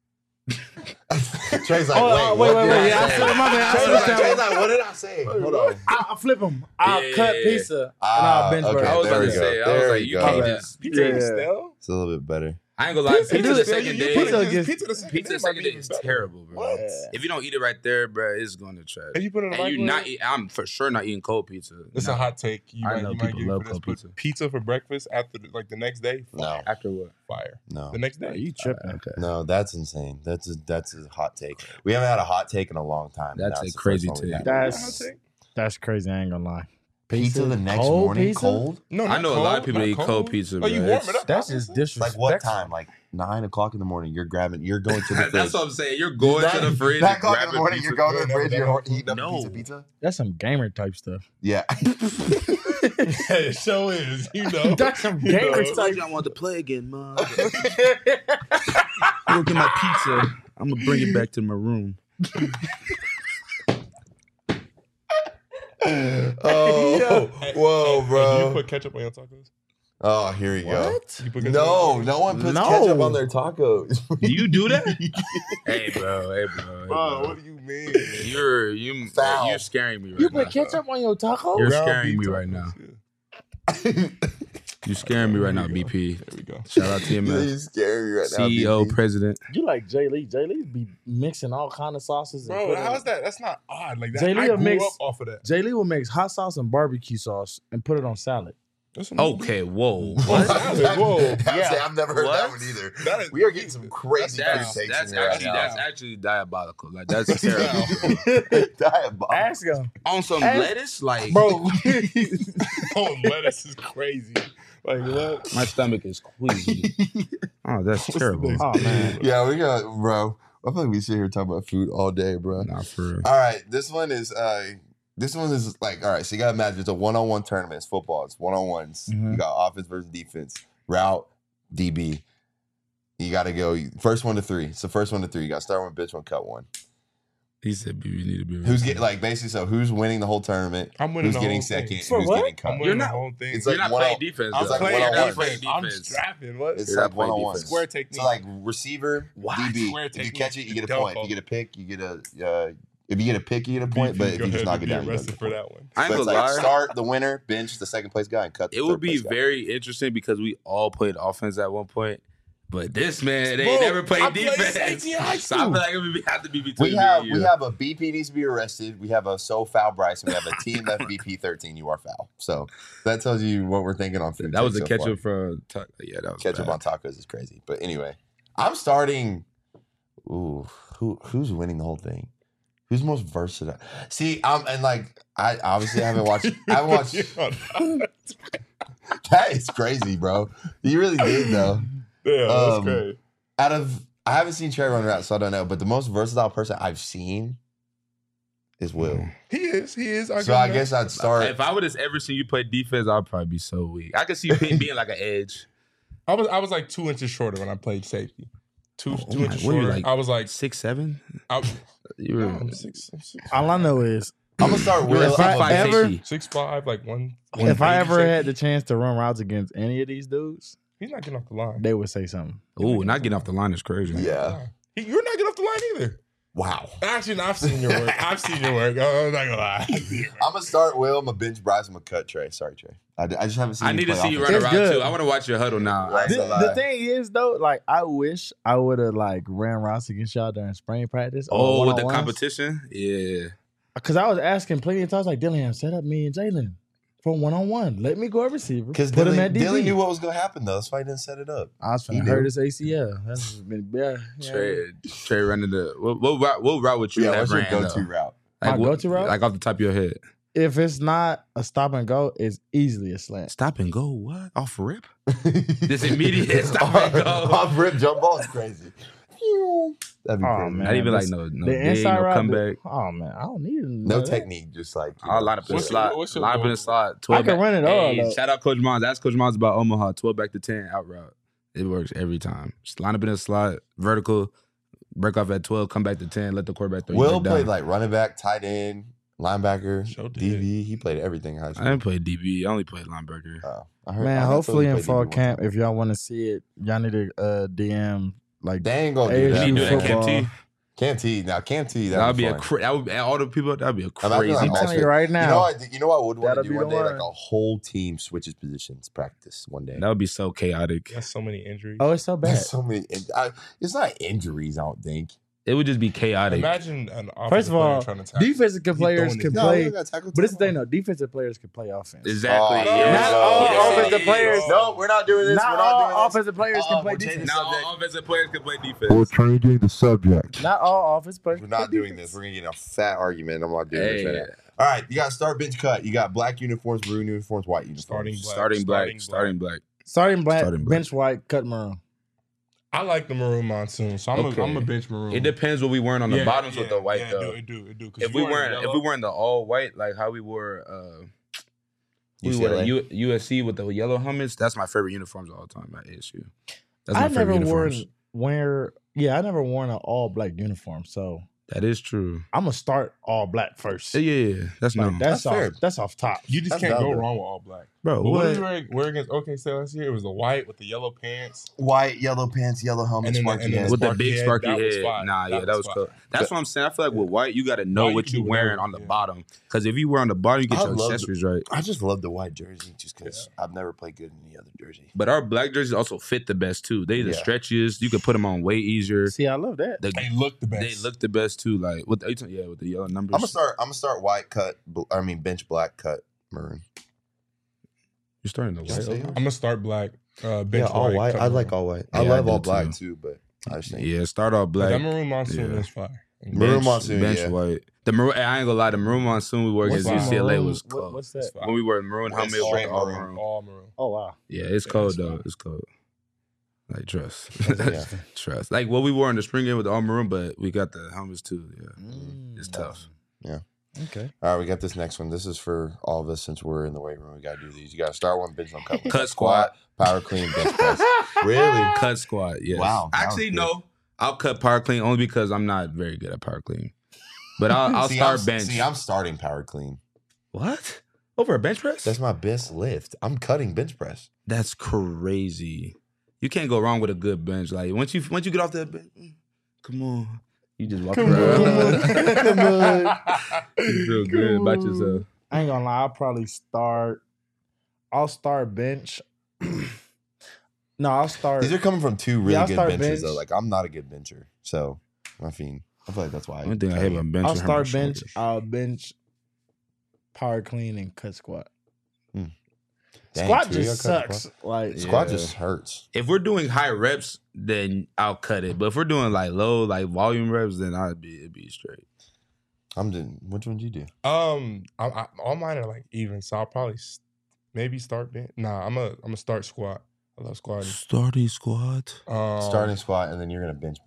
Trey's like, Oh, wait, wait, what wait, did yeah, I say? said my bad. I Trey's said like, that Trey's one. like, what did I say? Hold on. I'll flip them. I'll Yeah, cut yeah, yeah. pizza and Ah, I'll bench okay. burger. I was there about we to go. say. I There was like, we you go. can't My just. Pizza ain't Yeah. stale. It's a little bit better. I ain't gonna lie. Pizza Pizza do the it. second Pizza day. gets- Pizza the second Pizza day the second might day be is better. terrible, bro. What? If you don't eat it right there, bro, it's going to trash. If you put it in the And you microwave, not eat. I'm for sure not eating cold pizza. it's No. a hot take. You I might, know you might people get love for this, cold but pizza. pizza for breakfast after the next day. No, After what? Fire. no, The next day. Are you tripping? Okay. no. That's insane. That's a hot take. We haven't had a hot take in a long time. That's Now a it's the crazy first one we take. had. That's crazy. I ain't gonna lie. Pizza the next cold morning, pizza? cold. No, I not know a lot of cold, people not that eat cold pizza, Oh, you bro. warm It's- it up. That's just obviously. disrespectful. Like what time? Like 9:00 in the morning. You're grabbing. You're going to the fridge. That's what I'm saying. You're going to the fridge 9 and o'clock in the grabbing morning. pizza. You're going to the Never fridge. done You're that. eating up No. a pizza. That's some gamer type stuff. Yeah. Yeah, it sure is. You know. That's some You gamer know. I told you I want to play again, man. I'm gonna get my pizza. I'm gonna bring it back to my room. Oh, whoa, Do bro. you put ketchup on your tacos? Oh, here you go. You put ketchup No, on no one puts No. ketchup on their tacos. Do you do that? hey, bro. Hey, bro. Bro, what do you mean? Foul. You're scaring me right You now. put ketchup on your taco? You're Ground scaring beef me right tacos, now. yeah. You're scaring me right now, There you go. BP. There we go. Shout out to you, You man. scary right now. CEO, BB. president. You like Jay Lee? Jay Lee be mixing all kind of sauces. And Bro, how's that? That's not odd. Like that. Jay Lee I will grew mix- up off of that. Jay Lee will mix hot sauce and barbecue sauce and put it on salad. That's a new Okay, whoa. What? Whoa. I've never heard that What? one either. That is- We are getting some crazy That's food takes in here right that's now. actually diabolical. Like that's terrible. Diabolical. Ask him, On some Ask- lettuce, like bro. Oh, lettuce is crazy. Like what? my stomach is queasy. Oh, that's terrible. next- Oh man, Yeah, we got, bro. I feel like we sit here talking about food all day, bro. Nah, for real. All right, this one is like, all right, so you got to imagine it's a one-on-one tournament. It's football. It's one-on-ones. Mhm. You got offense versus defense, route, DB. You got to go first 1 to 3. So first 1 to 3. You got to start one, bitch one, cut one. He said, "You need to be." Who's getting, like, basically, so who's winning the whole tournament? I'm winning Who's the getting whole second? thing. And For who's what? getting cut? I'm winning not- the whole thing. It's You're like not playing one-on- defense. it's though. like You're one-on-one. not defense. playing I'm defense. strapping. What? It's You're like not playing one-on-one. defense. Square technique. So like receiver, What? DB. Square If you technique, catch it, you get a dump point. If up. you get a pick, you get a. If you get a pick, you get a point. But if go you just ahead knock and it be down, you don't arrested get a for point. that one. I ain't So it's gonna like lie. start the winner, bench the second place guy, and cut. The It third would be place guy. very interesting because we all played offense at one point. But this man, they Bro, never played I played defense. safety in high So I feel school. like it would have to be between We me have and we you. have a BP needs to be arrested. We have a so foul Bryce, and we have a team FBP 13. You are foul. So that tells you what we're thinking on food. That was a takes so ketchup far. for yeah, that was Ketchup bad. on tacos is crazy. But anyway, I'm starting. Ooh, who's winning the whole thing? Who's most versatile? See, I obviously haven't watched. I haven't watched. That is crazy, bro. You really did though. Yeah, that's Um, great. I haven't seen Trey run route, so I don't know. But the most versatile person I've seen is Will. He is. So I guess I'd start. If I would have ever seen you play defense, I'd probably be so weak. I could see you being like an edge. I was like 2 inches shorter when I played safety. Two Oh, inches what are you, shorter. like, I was like 6'7". I, You were I'm six. all I know is I'm gonna start Will. If I I'm a- ever- 6'5", like one. if I ever 180 had the chance to run routes against any of these dudes, he's not getting off the line. they would say something. Ooh, not getting off the line is crazy. Yeah. You're not getting off the line either. Wow. Actually, no, I've seen your work. I'm not gonna lie. I'm gonna start Will. I'm gonna bench Bryce. I'm gonna cut Trey. Sorry, Trey. I just haven't seen. I need to play see you offense. run It's around good. too. I want to watch your huddle now. Right. The, That's a lie. the thing is though, like I wish I would have like ran routes against y'all during spring practice. Oh, with the competition? Yeah. Because I was asking plenty of times, like Dillingham, set up me and Jalen for 1-on-1. Let me go at receiver. Because put him at DB. Dilly knew what was gonna happen though. That's why he didn't set it up. I was He finna knew. hurt his ACL. That's been yeah. Trey running the what route would you Yeah, have what's your ran? go-to though? route? My what- go-to route? Like off the top of your head. If it's not a stop and go, it's easily a slant. Stop and go, what? Off rip? This immediate stop and go. Off rip jump ball is crazy. That'd be Oh, crazy. man. Not even like this- no The dig, inside no route, comeback. oh man, I don't need it. No technique, just like I'll line up in the What's your- slot. what's your Line up in goal? the slot. I 12 can back. run it all. Hey, though. shout out Coach Mons. Ask Coach Mons about Omaha. 12 back to 10 out route. It works every time. Just line up in the slot, vertical, break off at 12, come back to 10, let the quarterback throw you Will back played down. like running back, tight end, linebacker, Sure did. DB. He played everything in high I school. didn't play DB. I only played linebacker. I heard- I Man, thought hopefully he in played fall DB one camp, time. if y'all want to see it, y'all need to DM like They ain't gonna do ASU that. You do that, Cam football. T? Cam T. Now Cam T. That would be fun. that would all the people. That would be a Imagine crazy. like I'm all telling you fit. right now. You know what I would want to That'll do be one the day? one. Like a whole team switches positions practice one day. That would be so chaotic. That's so many injuries. Oh, it's so bad. There's so many. It's not injuries. I don't think. It would just be chaotic. Imagine an offensive First of player all, trying to tackle. defensive players throwing can it. No, play, we got tackle but it's the time. thing though. Defensive players can play offense. Exactly. Oh, yes. Not all Yes, offensive it is. players. No, we're not doing this. Not we're not all doing this. offensive players can play we're changing defense. Now subject. all offensive players can play defense. changing the subject. Not all offensive players. We're can not play doing defense. this. We're gonna get in a fat argument. I'm not doing Hey, this right now. All right, you got start, bench, cut. You got black uniforms, maroon uniforms, white uniforms. Starting black. starting black. Starting Starting black, Starting black. bench white, cut maroon. I like the maroon monsoon, so I'm Okay. a bench maroon. It depends what we wearing on the bottoms with the white yeah, though. It do. 'Cause If you we weren't the all white like how we wore we wore the UCLA. USC with the yellow helmets, that's my favorite uniforms of all time at ASU. That's my I never favorite worn uniforms. I never worn an all black uniform, so That is true. I'm gonna start all black first. Yeah. That's Like, no. that's That's fair. off. That's off top. You just That's can't go valid. wrong with all black. Bro, But what what? did you wear against OK State last year? It was the white with the yellow pants. White, yellow pants, yellow helmet, And then the- sparky and then head. With the Sparky big head, sparky that was head. fire. Nah, That yeah, that was was cool. fire. That's what I'm saying. I feel like with white, you got to know White, you what can you do wearing whatever, on the yeah. bottom. Because if you wear on the bottom, you get I your love the- accessories right. I just love the white jersey just because I've never played good in any other jersey. But our black jerseys also fit the best too. They the Yeah. stretchiest. You can put them on way easier. See, I love that. The- They look the best. They look the best too. Like with the with the yellow numbers. I'm gonna start white, cut. Bench black, cut maroon. You starting the Can I say white? yours? I'm gonna start black. Bench Yeah, all white. cut I like maroon. all white. Yeah, I love I all do black too. too, but I just think Yeah, start off But that black. maroon monsoon Yeah. is fire. Maroon monsoon, bench yeah. white. The maroon. I ain't gonna lie. The maroon monsoon we work at What's the UCLA maroon? was cold. What's It's that? fire. When we were in maroon Well, helmet, it's with straight all maroon. maroon. All maroon. Oh wow. Yeah, it's Yeah, cold it's though. fire. It's cold. Like trust, Yeah. trust. Like what we wore in the spring game with the all maroon, but we got the helmets too. Yeah, it's tough. Okay. All right, we got this next one. This is for all of us since we're in the weight room. We got to do these. You got to start one, bench one, cut one. Cut squat. Power clean, bench press. Really? Cut squat. Yes. Wow, that was Actually, good. no. I'll cut power clean only because I'm not very good at power clean. But I'll start bench. See, I'm starting power clean. What? Over a bench press? That's my best lift. I'm cutting bench press. That's crazy. You can't go wrong with a good bench. Like once you get off that bench, come on. You just walk around. Come on. You feel good about yourself. I ain't gonna lie. I'll start bench. No, I'll start. These are coming from two really I'll good start benches, bench. though. Like, I'm not a good bencher. So, I feel like that's why. One thing I hate about bench. I'll is how start much bench. shoulders. I'll bench, power clean, and cut squat. Dang, Squat two of y'all just cut sucks. Like Squat Yeah. just hurts. If we're doing high reps, then I'll cut it. But if we're doing like low, like volume reps, then it'd be straight. I'm doing. Which one did you do? I all mine are like even, so I'll probably maybe start bench. Nah, I'm a start squat. I love squatting. Starting squat. Starting squat, and then you're gonna bench.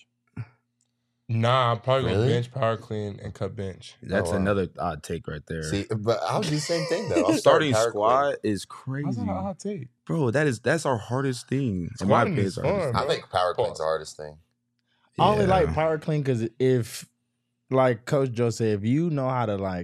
Nah, I'm probably gonna Really? bench, power clean, and cut bench. That's Oh, wow. another odd take right there. See, but I'll do the same thing though. I'll Starting start power squat is How's crazy, that a hot take? bro. That's our hardest thing. In my Squatting opinion, is it's our hardest fun, clean. I bro. think power clean's Pause. the hardest thing. thing. I only Yeah. like power clean because if, like Coach Joe said, if you know how to like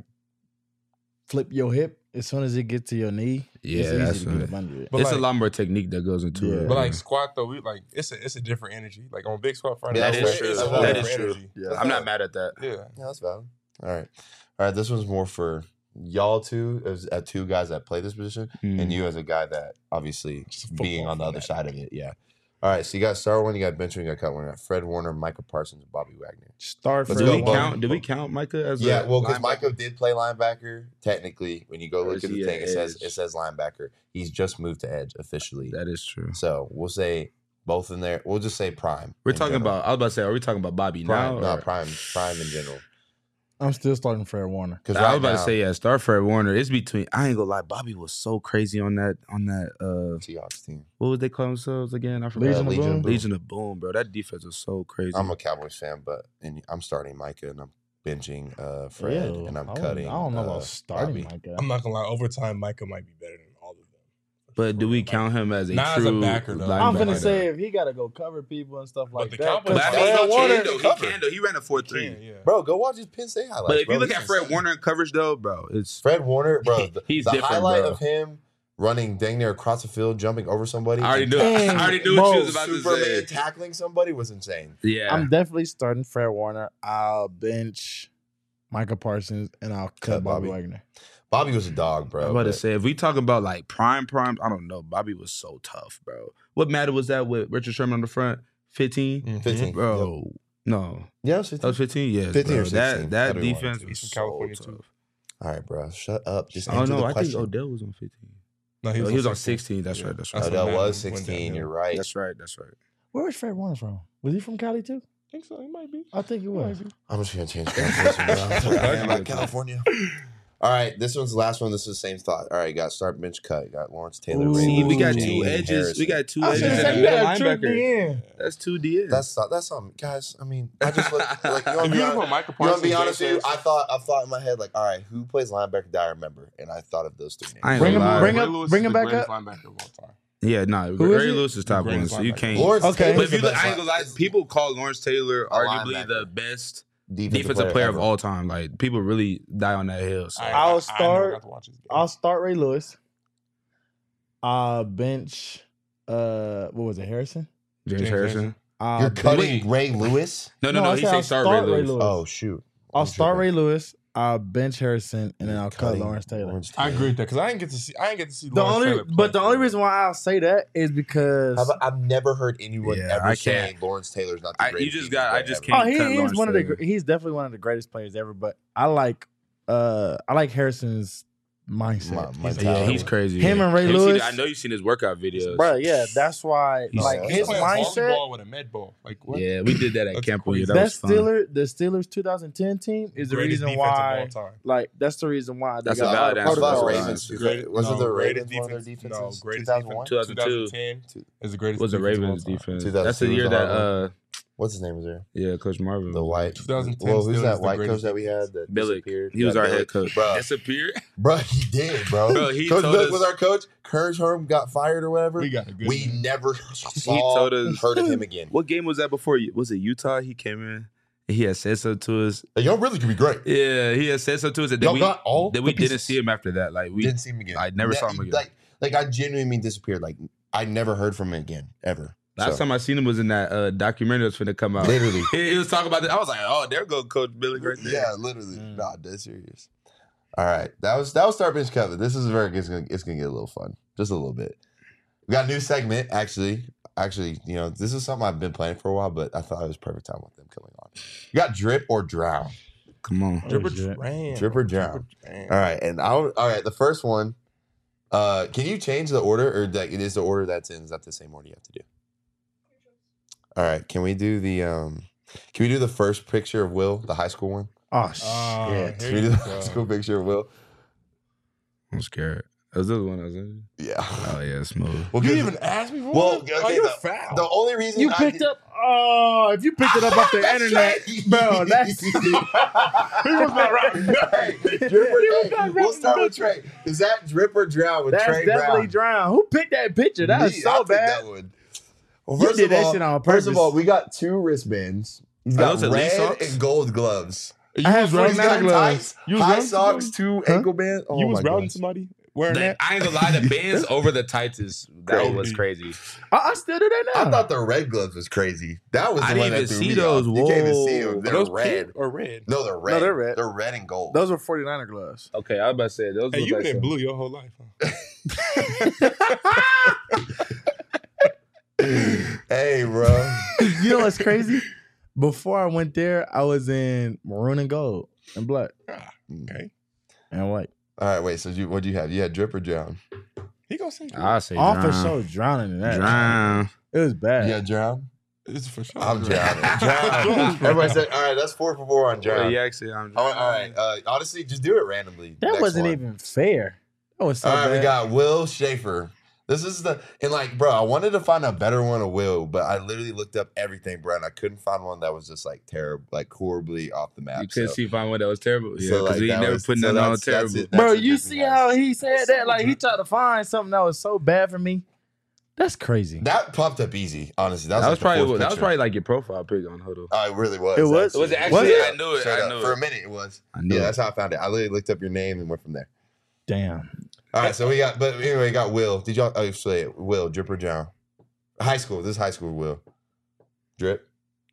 flip your hip as soon as it gets to your knee, Yeah, it's that's easy to get it. up under it. But It's like, a lot more technique that goes into Yeah. it. But like squat though, it's a different energy. Like on big squat Friday, Yeah, that that's is way- true. it's a whole that is different true. energy. Yeah. I'm not mad at that. Yeah. Yeah, that's valid. All right. This one's more for y'all two as two guys that play this position, and you as a guy that obviously Just a being football on the other fanatic. side of it. Yeah. All right. So you got start one, you got bench one, you got cut one. You got Fred Warner, Micah Parsons, and Bobby Wagner. Start Let's for Do go, we Bo. count? Do we count Micah as Yeah, a well, because linebacker? Micah did play linebacker. Technically, when you go Or look is at the he thing, an it edge? says linebacker. He's just moved to edge officially. That is true. So we'll say both in there. We'll just say prime. We're in talking general. about. I was about to say, are we talking about Bobby prime, now? not or- prime in general. I'm still starting Fred Warner. Because I was about to say, yeah, start Fred Warner. It's between. I ain't gonna lie, Bobby was so crazy on that. Seahawks team. What would they call themselves again? I forgot. Legion of Boom? Legion of Boom, bro. That defense was so crazy. I'm a Cowboys fan, but I'm starting Micah and I'm benching Fred Ew, and I'm I don't- cutting. I don't know about starting Bobby. Micah. I'm not gonna lie. Over time, Micah might be better than all of them. But do we count him as a Not as a true backer, though. I'm linebacker? finna say if he got to go cover people and stuff like the that. Cowboys- 'cause But I Fred mean, Fred he Warner, can though. He cover. can though. He ran a 4.3. Yeah. Bro, go watch his Penn State highlights. But if bro. you look He's at Fred insane. Warner in coverage though, bro, it's Fred Warner, bro, He's the different, highlight bro. of him running dang near across the field, jumping over somebody. I already and knew. I already knew what you was about to Superman say. tackling somebody was insane. Yeah, I'm definitely starting Fred Warner. I'll bench Micah Parsons and I'll cut Cut Bobby Bobby. Wagner. Bobby was a dog, bro. I'm about to but- say if we talk about like prime, I don't know. Bobby was so tough, bro. What matter was that with Richard Sherman on the front? 15, Mhm. 15. bro. No, Yeah, it was that 15. was 15. Yes, 15 or bro. 16. That That'd be one, defense too. was He's from so California, tough. too. All right, bro. Shut up. Just Oh answer no, the I think question. Odell was on 15. No, Oh, he was on 16. That's right. That's right. when Odell Madden was went 16. downhill. You're right. That's right. That's right. Where was Fred Warner from? Was he from Cali too? I think so. He might be. I think he was. I'm just gonna change conversation, bro. I'm talking about California. All right, this one's the last one. This is the same thought. All right, you got start bench cut. You got Lawrence Taylor. Ooh. Ray See, we Lewis, got James two edges. Harrison. We got two I was edges gonna and say a you middle got two linebacker. DN. That's two DNs. That's something, guys. I mean, I just look like you If want you to look be at Micah You want to be Parsons, honest with you? James I thought in my head like, all right, who plays linebacker? Do I remember? And I thought of those three names. I ain't Bring gonna him- lie. bring Ray him- Lewis bring is him the back greatest up. linebacker of all time. Yeah, nah. Who is Ray it? Lewis is top one, Greatest so you linebacker. can't. Lawrence Okay. Taylor's But if you the look, best I ain't gonna lie. line- People call Lawrence Taylor A arguably linebacker. the best defensive defensive player of ever. all time. Like people really die on that hill. So. I'll never start- got to watch his game. I'll start Ray Lewis. Bench. What was it? Harrison. James Harrison. You're cutting Ray Lewis? No, I He said said I'll start Ray Lewis. Oh shoot! I'll I'm start Ray tripping. Lewis. I'll bench Harrison, and then I'll cut Cutting Lawrence Taylor. Lawrence I Taylor. agree with that because I didn't get to see. The Lawrence only, Taylor play but the only for reason why I'll say that is because How about- I've never heard anyone Yeah, ever I saying can't. Lawrence Taylor's not the You greatest. just defensive got. I player just ever. can't. he cut is Lawrence one of the Taylor. he's definitely one of the greatest players ever. But I like Harrison's mindset. mentality. He's crazy. Him and Ray Have you seen- Lewis. I know you've seen his workout videos. Bro, yeah, that's why. He's- Like he's his playing mindset. volleyball with a med ball. Like what? Yeah, we did that at That's camp one year. crazy. That That was fun. the Steelers 2010 team is the Greatest reason defense of why. all time. Like that's the reason why they That's a got valid all the answer. I thought protocols. Ravens. Great- Wasn't the greatest Ravens one of their defense? defenses? No, greatest 2001? 2002 is the greatest. was the defense of all Ravens time. defense. 2002 That's the was year the that hard What's his name was there? yeah, Coach Marvin. The white. 2010 Well, who's Steelers that is the white coach greatest that we had that Billick. disappeared? He was Yeah, our Billick. head coach. Bro, Disappeared? bro, he did, bro. Bro, he Coach told Billick us- was our coach. Coach Herm got fired or whatever. We got a good. We man. never told us- heard of him again. What game was that before you? Was it Utah? He came in and he had said something to us. Like, y'all really could be great. Yeah, he had said something to us. And Y'all then got all then we the didn't pieces. see him after that. Like we Didn't see him again. I never saw him again. Like I genuinely mean disappeared. Like I never heard from him again ever. Last time I seen him was in that documentary that's finna come out. Literally. He was talking about that. I was like, oh, there go Coach Billy right there. Yeah, literally. Nah, dead serious. All right, that was Start Bench Cover. This is very it's gonna get a little fun, just a little bit. We got a new segment actually. You know, this is something I've been playing for a while, but I thought it was perfect time with them coming on. You got Drip or Drown. Come on. Drip or shit. drown. Drip or drown. All right, all right. The first one. Can you change the order, or that it is the order that's in? Is that the same order you have to do? All right. Can we do the first picture of Will, the high school one? Oh Oh, shit! Can here we do you the go. high school picture of Will? I'm scared. Was this the one I was in? Yeah. Oh yeah, smooth. Well, You good- didn't even ask me for Well, one? okay, Oh, you're the- foul. The only reason You I picked did- up. Oh, if you picked it up off the That's internet, right. bro, that's. He was not right. Drip or Trey? We'll start with Trey. Is that Drip or Drown with That's Trey definitely Brown? drown. Who picked that picture? That was Me, I so picked bad. that one. Well, You first did of that all- shit on First of purpose. all, we got 2 wristbands. He's Are got those elite red socks? and gold gloves. You I have was Red He's routing got Santa Claus. tights, You was high routing socks, somebody? 2 ankle bands. Oh You my was routing gosh. somebody wearing That, that? I ain't gonna lie, the bands over the tights is that Crazy. was crazy. I still do that now. I thought the red gloves was crazy. That was the I one didn't that even threw see me those. off. You can't even see Whoa. them. Are They're those red. pink or red? No, they're red. they're red. They're red and gold. Those were 49er gloves. Okay, I was about to say those. Hey, look you've like been in some- blue your whole life, huh? Hey, bro. You know what's crazy? Before I went there, I was in maroon and gold and black Okay. and white. All right, wait. So what'd you have? You had Drip or Drown? He gonna say I say All for drown. sure drowning in that. Drown. It was bad. Yeah, Drown. This is for sure. I'm drowning. Drown. Everybody said, all right, that's 4 for 4 on Yeah, Drown. he actually, I'm All right. Honestly, just do it randomly. That Next wasn't one. even fair. That was so All right, bad. we got Will Schaefer. This is bro, I wanted to find a better one of Will, but I literally looked up everything, bro, and I couldn't find one that was just like terrible, like horribly off the map. You couldn't so- see find one that was terrible. Yeah, so, because like, he that never was- put so nothing on that's terrible. it. Bro, That's you what see Disney how has. he said that? Like he tried to find something that was so bad for me. That's crazy. That popped up easy, honestly. That was, That like was the probably fourth that was picture. probably like your profile pic on Huddle. Oh, it really was. It was? Was it actually? actually? Was it? I knew it. Straight I up. knew For a it. minute, it was. I knew Yeah, it. that's how I found it. I literally looked up your name and went from there. Damn. All right, so we got Will. Did y'all say it? Will, Drip or Drown? High school. This is high school, Will. Drip?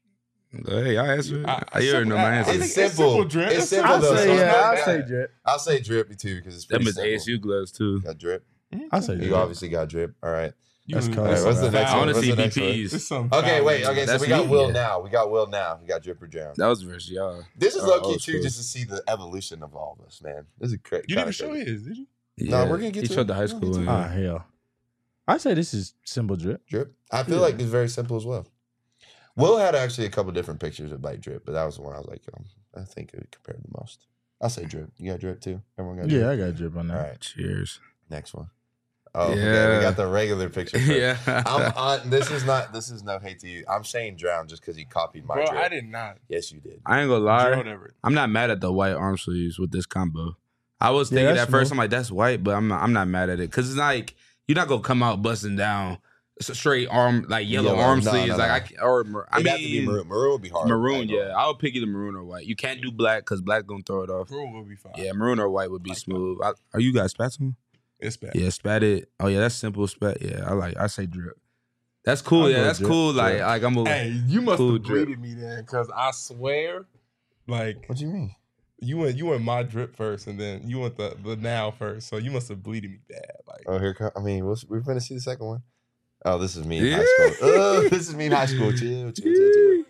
Hey, I answered. I- You already know my I answer. think It's it's simple. simple, Drip. It's It's simple, I'll though. say so yeah. I'll it's say not- Drip. I'll say Drip, too, because it's Them pretty is simple. ASU gloves too. Got Drip. I'll say You Drip. obviously got Drip. All right. That's You- cold. All right, what's the some next I foul. one? want to What's see the next one? VPs. It's some Okay, foul, wait. man. Okay, so That's we got me, Will yeah. now. We got Will now. We got Drip or Drown. That was versus y'all. This is Oh, low key, old too, school. just to see the evolution of all of us, man. This is crazy. You didn't show his, did you? No, we're gonna get He to showed it. the high We're school gonna one. get to Ah, hell. I say this is simple Drip. Drip. I feel like it's very simple as well. Will had actually a couple different pictures of like Drip, but that was the one I was like, I think it would compare the most. I'll say Drip. You got Drip too? Everyone got Drip? Yeah, I got Drip on All that. right, Cheers. next one. Oh, okay, Yeah. we got the regular picture. First. Yeah. I'm on. This is no hate to you. I'm saying Drown just because you copied my Bro, Drip. I did not. Yes, you did. I ain't gonna lie. Gerald Everett. I'm not mad at the white arm sleeves with this combo. I was Yeah, thinking that's at first, smooth. I'm like, that's white, but I'm not mad at it because it's like you're not gonna come out busting down straight arm like yellow Yellow. arm No, sleeves. no, like no. I It'd have to be mean maroon. Maroon would be hard. maroon. Yeah, I would pick either maroon or white. You can't do black because black gonna throw it off. Bro will be fine. Yeah, maroon or white would be Like that. smooth. Are you guys spatting? It's bad. Yeah, spat it. Oh yeah, that's simple spat. Yeah, I say Drip. That's cool. I'll Yeah, go that's Drip. cool. Like Drip. I'm a Hey, you must Cool have Drip. bleeded me then, because I swear, like What do you mean? you went my Drip first, and then you went the now first. So you must have bleeded me bad. Like Oh, here come. I mean, we're gonna see the second one. Oh, this is me in Yeah. high school. Oh, this is me in high school. Chill.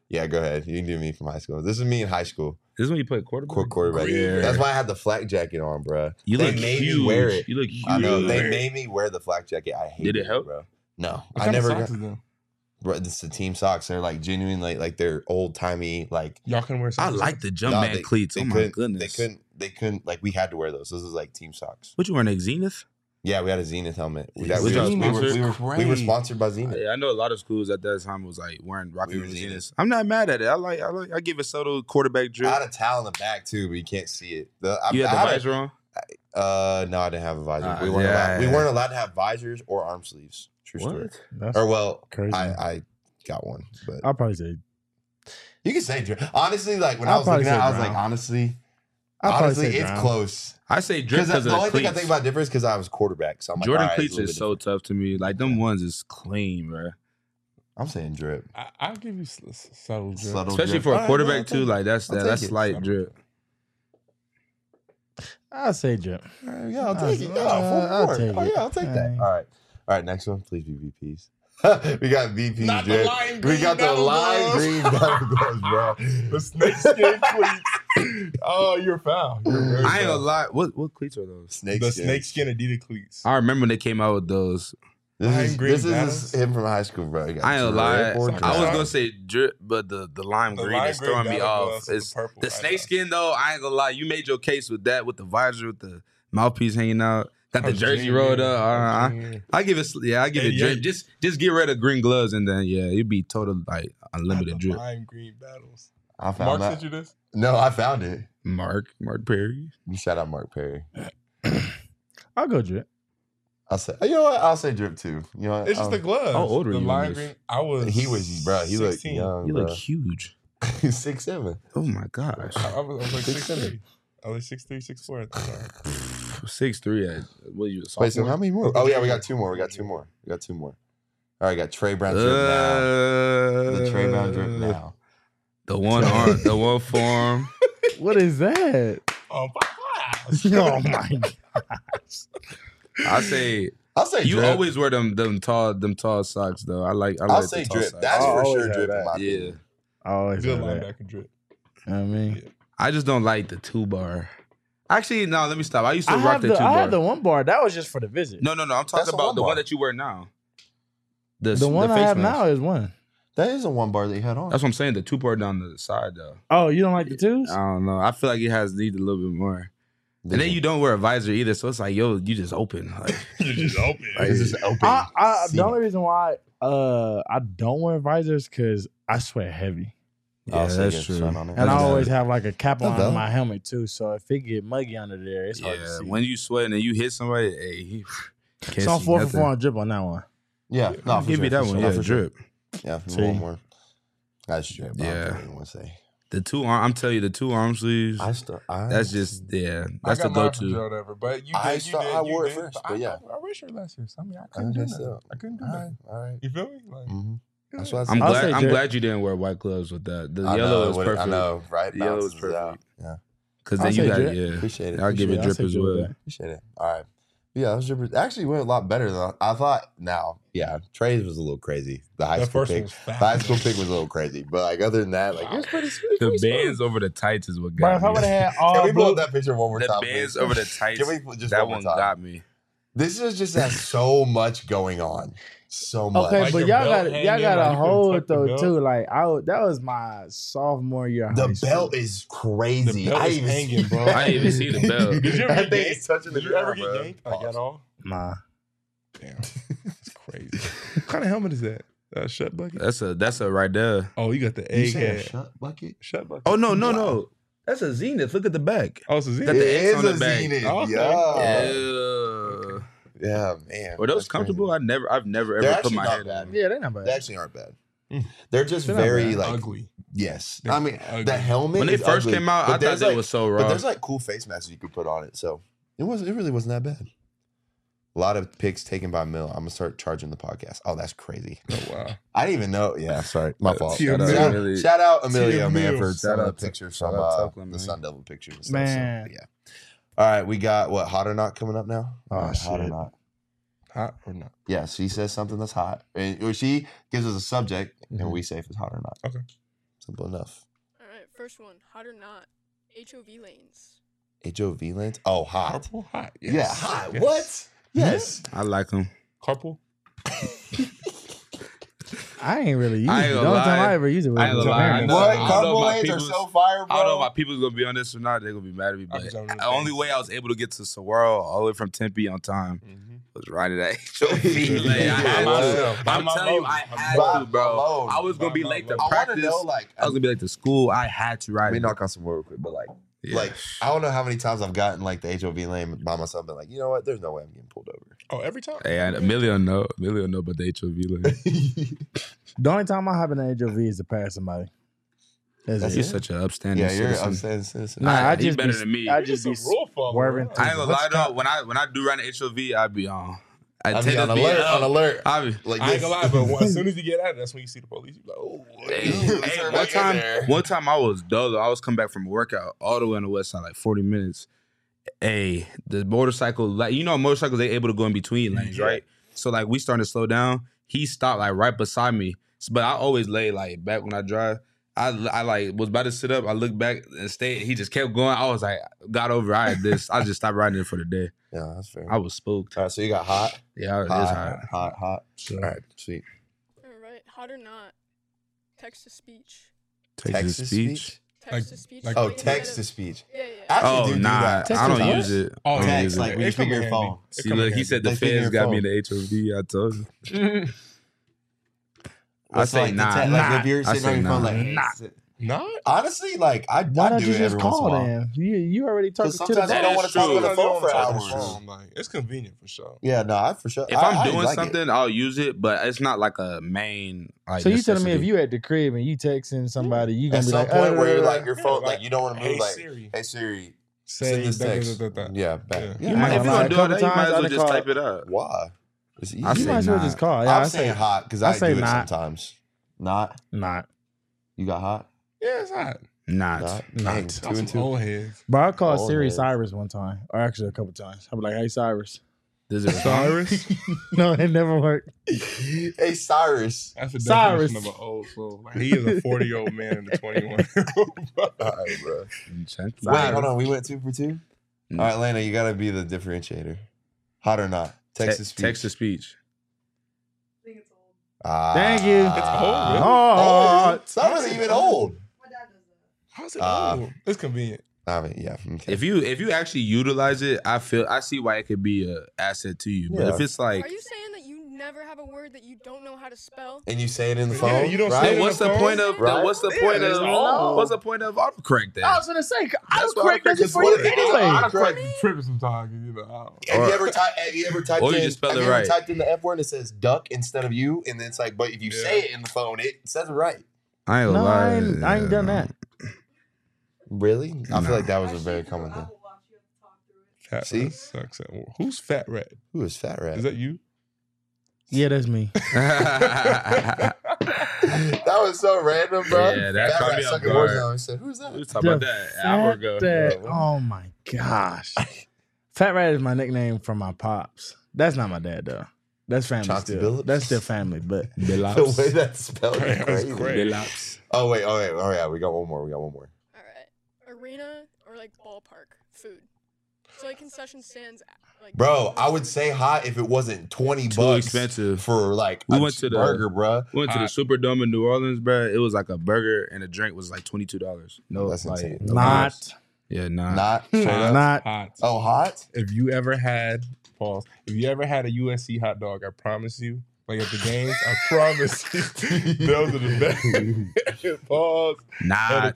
Yeah, go ahead. You can do me from high school. This is me in high school. This is when you play quarterback. Quarterback. Yeah. That's why I had the flak jacket on, bro. You They look made me huge. wear it. You look huge. I know. They made me wear the flak jacket. I hate it. Did it help? bro? No. What I kind of never socks got. is them? Bro, this is the team socks. They're like genuine, like they're old timey, like. Y'all can wear I socks. like the No, Jumpman cleats. Oh my couldn't- goodness. They couldn't. Like we had to wear those. This is like team socks. What you wearing? A Zenith? Yeah, we had a Zenith helmet. We, Yeah, we, y'all were, sponsored? we were sponsored by Zenith. Yeah, I know a lot of schools at that time was like rocking We were the Zenith. Zeniths. I'm not mad at it. I give a subtle quarterback drip. I had a towel in the back too, but you can't see it. You had the I visor on? No, I didn't have a visor. Ah, we weren't yeah. allowed. We weren't allowed to have visors or arm sleeves. True story. What? That's Or well, crazy. I got one, but I'll probably say. you can say drip. Honestly, like when I'll I was probably looking at, it, say I was like, brown. honestly, I'll probably say it's brown. close. I say drip Because because the of only the thing I cleats. think about difference because I was quarterback. So I'm like, Jordan all right, cleats it's a is little so tough to me. Like them ones is clean, bro. different. I'm saying drip. I'll give you subtle drip. Subtle Especially drip. for All a right, quarterback I'll too. take Like that's I'll take that's it. light drip. I'll say drip. Yeah, I'll take it. Yeah, I'll four. take Oh it. yeah, I'll take that. Aye. All right. Next one, please be VPs. We got VPs, Not the drip. lime We green got the battle lime gloves. green battle gloves, bro. The snakeskin cleats. Oh, you're foul. You're very I ain't foul. gonna lie. What cleats are those? Snake The skin. snakeskin Adidas cleats. I remember when they came out with those. Lime green This is battles? him from high school, bro. He got I ain't gonna lie. drip or I was drop. gonna say drip, but the lime The green lime is green throwing me battle off. gloves with It's the purple, the I know. snakeskin though. I ain't gonna lie. You made your case with that, with the visor, with the mouthpiece hanging out. Got the I'm jersey junior. rolled up. I'm junior. I give it. Yeah, I give it 88. drip. Just get rid of green gloves and then yeah, it'd be total like unlimited The drip. lime green battles. I found Mark that. sent you this? No, I found it. Mark Perry. Shout out Mark Perry. I'll go drip. I'll say. You know what? I'll say drip too. You know what? It's just the gloves. How old are the you on lime this? green. I was. He was, bro. He looked 16. young. You bro. look huge. He's 6'7". Oh my gosh. I was like 6'7". 6'3". I was 6'3", 6'4" at the time. 6'3". What you? Wait, so how many more? Oh yeah, we got two more. All right, got Trey Brown drip now. The Trey Brown drip now. The one arm, the one form. What is that? Oh, Oh my god! I say I'll say you drip. always wear them tall socks though. I like. I'll the say tall drip. socks. That's I'll for always sure have drip in that. my yeah. opinion. I always Good have that. linebacker drip. You know what I mean, I just don't like the 2-bar. Actually, no. Let me stop. I used to I rock have the the 2-bar. I have the 1 bar. That was just for the visit. No. I'm That's talking a about the 1-bar. one that you wear now. the one I face have mask. now is 1. That is a 1 bar that you had on. That's what I'm saying. The 2-bar down the side though. Oh, you don't like the 2s? I don't know. I feel like it has need a little bit more. And then you don't wear a visor either, so it's like, yo, you just open. Like, You just open. It's just open. The seat. only reason why I don't wear visors because I sweat heavy, yeah, so you that's get true. sun on it. and I That's always good. have like a cap That's on valid. my helmet too. So if it get muggy under there, it's hard to Yeah, see. when you sweating and you hit somebody, hey, he can't so I'm see 4 for nothing. 4 on drip on that one. Yeah, no, I'll for give sure, you that for one. sure. Yeah, For sure. drip. Yeah, See? one more. That's drip. Yeah. I don't want to say. The 2 arm. I'm telling you, the 2 arm sleeves. That's just that's I the got go mine from to. Joe Never, but you I did. start- You did. I you wore it did. first, but yeah. I wish your last year. I mean, I I couldn't do guess that. so. I couldn't do All that. right, all right. You feel me? Like, Mm-hmm. That's what I I'm said. I'll say glad. I'm drip. glad you didn't wear white gloves with that. The I yellow know, is what- perfect. I know, right? The yellow is Balances it out. perfect. Yeah, Because I'll then you say got drip. yeah. appreciate it. I'll give it I'll drip say as drip with well. that. Appreciate it. All right. Yeah, those drippers actually went a lot better than I thought. Now, yeah, Trey's was a little crazy. The high that school first one pick, was the fast. high school pick was a little crazy, but like other than that, like it was pretty. The bands over the tights is what But got if I would me. have had Can all we pull blue, up that picture one more The time? bands please? over the tights. Can we put just that one one more time? got me. This is just has so much going on, so much. okay, Like but your y'all belt got hanging, y'all got like to you couldn't hold tuck the though belt. too. Like that was my sophomore year. of The high school. belt is crazy. The belt I is even hanging, see- bro. I didn't even see the belt. Did you ever That get thing yanked? is touching the Did you ever ground, get bro. yanked? Like at all? Nah. Damn, that's crazy. What kind of helmet is that? Shut bucket. That's a right there. Oh, you got the You egg say a head. shut bucket? Shut bucket. Oh no. Wow. That's a Zenith. Look at the back. Oh, so Got It the X is on the a back. Zenith. Oh, okay. Yeah. Yeah. Yeah, man. Were those That's comfortable? crazy. I've never They're ever put actually my not head bad. on. Yeah, they're not bad. They actually aren't bad. Mm. They're just They're not very bad. like Ugly. yes. They're I mean ugly. the helmet When they is first ugly, came out, but I thought there's, that like- was so But raw. there's like cool face masks you could put on it, so it really wasn't that bad. A lot of picks taken by Mill. I'm gonna start charging the podcast. Oh, that's crazy. Oh wow. I didn't even know. Yeah, sorry, my fault. Tia Shout out, Mill. Really- shout out Emilio, Tia man, Mill. for some Shout of out the pictures shout from out Tuckland, the man. Sun Devil pictures and stuff. Man. So, yeah. All right, we got what hot or not coming up now. Oh, All right, hot or shit. not. Hot or not? Yeah, she says something that's hot, or she gives us a subject, Mhm. and we say if it's hot or not. Okay. Simple enough. All right, first one. Hot or not? HOV lanes. HOV lanes? Oh, hot. Carpool hot. Yeah, Yes. hot. Yes. What? Yes. I like them. Carpool? I ain't really used I it. ain't The gonna only time lie. I ever used it was I ain't with gonna your lie. parents. I What? don't know Carpool if my lanes are people's- so fire, bro. I don't know if my people's gonna be on this or not. They're gonna be mad at me. I'll be But jumping in the the only face. way I was able to get to Saguaro all the way from Tempe on time Mm-hmm. was riding that HOV lane. I Yeah, had myself. to. By I'm my telling you, load. I had By to, bro. my load. I was gonna be By my late to load. I want to practice. know, like, I was gonna be late to school. I had to ride. let me it. knock on some wood real quick, but Yeah. like, I don't know how many times I've gotten like the HOV lane by myself, been like, you know what? There's no way I'm getting pulled over. Oh, every time? Hey, Emilio know about the HOV lane. The only time I hop in the HOV is to pass somebody. That's He's it. such an upstanding Yeah, you're citizen. upstanding citizen. Nah, I He's just better be, than me. I You're just be some rule follower, swerving. bro. to I ain't gonna lie the- though. When I do run the HOV, I be on. I I'll tend be on to be alert, up. on alert. I be, Like I ain't this. gonna lie, but as soon as you get out, that's when you see the police. You be like, oh, hey, one time I was dolo. I was coming back from a workout all the way on the west side, like 40 minutes. Hey, the motorcycle, like motorcycles, they able to go in between lanes, Yeah. right? So like we starting to slow down. He stopped like right beside me, but I always lay like back when I drive. I like was about to sit up. I looked back and stayed. He just kept going. I was like, got over. I had this. I just stopped riding it for the day. Yeah, that's fair. I was spooked. All right, so you got hot, Yeah, it's hot. hot. Sure. All right, sweet. All right, hot or not? Text to speech. Text to speech. Text to speech. like- Oh, like instead text to of- speech. Yeah, yeah. I actually Oh do nah, that. Text I don't to what? use it. Oh, I don't Text, use it. like when you It come figure in your handy. phone. It See, come in look, he handy. said the They figure feds your got me in phone. the HOV. I told you. I What's say like the nah. te- like if you're I sitting say on your phone, nah. like Nah. Not? honestly, like I Why I don't do you it just every once in a call while. then? You already talking Because to the sometimes I That don't is want to talk true. on the phone for Talk on the hours. phone, like, it's convenient for sure. Yeah, no, I for sure. If I I'm doing like it. something, I'll use it, but it's not like a main. Like, So you telling me if necessity. you at the crib and you texting somebody, you gonna At be some like, point where you're like "Uh, your Yeah, phone, like, like you don't want to move. Hey Like, Siri, hey Siri, say send this da, da, text. da, da, da. Yeah, back. Yeah. Yeah. If you're I ain't gonna gonna do lie, it, a you couple might as well times I just call- type it up. Why? It's easy. I you say might as well not. just call." Yeah, I'm I saying say hot because I I say do it not. sometimes. Not. not. You got hot? Yeah, it's hot. Not. Not. Not. Dang, Got 2 and some 2. old heads. But I called Oh, Siri yeah. Cyrus one time, or actually a couple times. I'm like, "Hey Cyrus." Does it Cyrus? No, it never worked. Hey Cyrus. That's the Cyrus. definition of an old soul. Like, he is a 40-year-old man in the 21. All right, bro. Check. Wait, hold on. We went 2 for 2. Mm. All right, Lena, you gotta be the differentiator. Hot or not? Text to speech. Text to speech. Ah. Thank you. It's old, really? Oh, It's not even old. How's it Ah. old? It's convenient. I mean, yeah. Okay. If you actually utilize it, I see why it could be an asset to you. But Yeah. if it's like, Are you saying that you never have a word that you don't know how to spell? And you say it in the Yeah, phone. you don't say right? it then in what's the the phone? point of Right? what's the Yeah, point it's of old. what's the point of autocorrect then? I was gonna say, That's what autocorrect does it autocorrect for is you for. anyway. Autocorrect. Be tripping sometimes, you know. I don't- Have you ever typed Or you in? just spell have it you ever right. typed in the F word and it says duck instead of you, and then it's like, but if you Yeah. say it in the phone, it says it right. I ain't gonna No, lie. I ain't done that. Really? I Nah. feel like that was a very common thing. Fat See? Red sucks at Who's Fat Red? Who is Fat Rat? Is that you? Yeah, that's me. that was so random, bro. Yeah, that Fat caught Rat me off sucking guard. Warzone. I said, "Who's that?" We was talking about that an hour ago. Oh my gosh. Fat Rat is my nickname from my pops. That's not my dad though. That's family Chauncey still. Billups? That's still family, but The way that's spelled is That's crazy. crazy. Oh wait, oh yeah, we got one more. All right. Arena or like ballpark food. So like concession stands. Like Bro, I would say hot if it wasn't $20 Too expensive. for like We a went to the- burger, bro. We went to the Hot. Superdome in New Orleans, bro. It was like a burger and a drink was like $22. No, That's like insane. no not. vibes. Yeah, nah. Not straight up. Not. Hot. Oh, hot? If you ever had pause, if you ever had a USC hot dog, I promise you, like at the games, I promise you, those are the best. Pause. Not.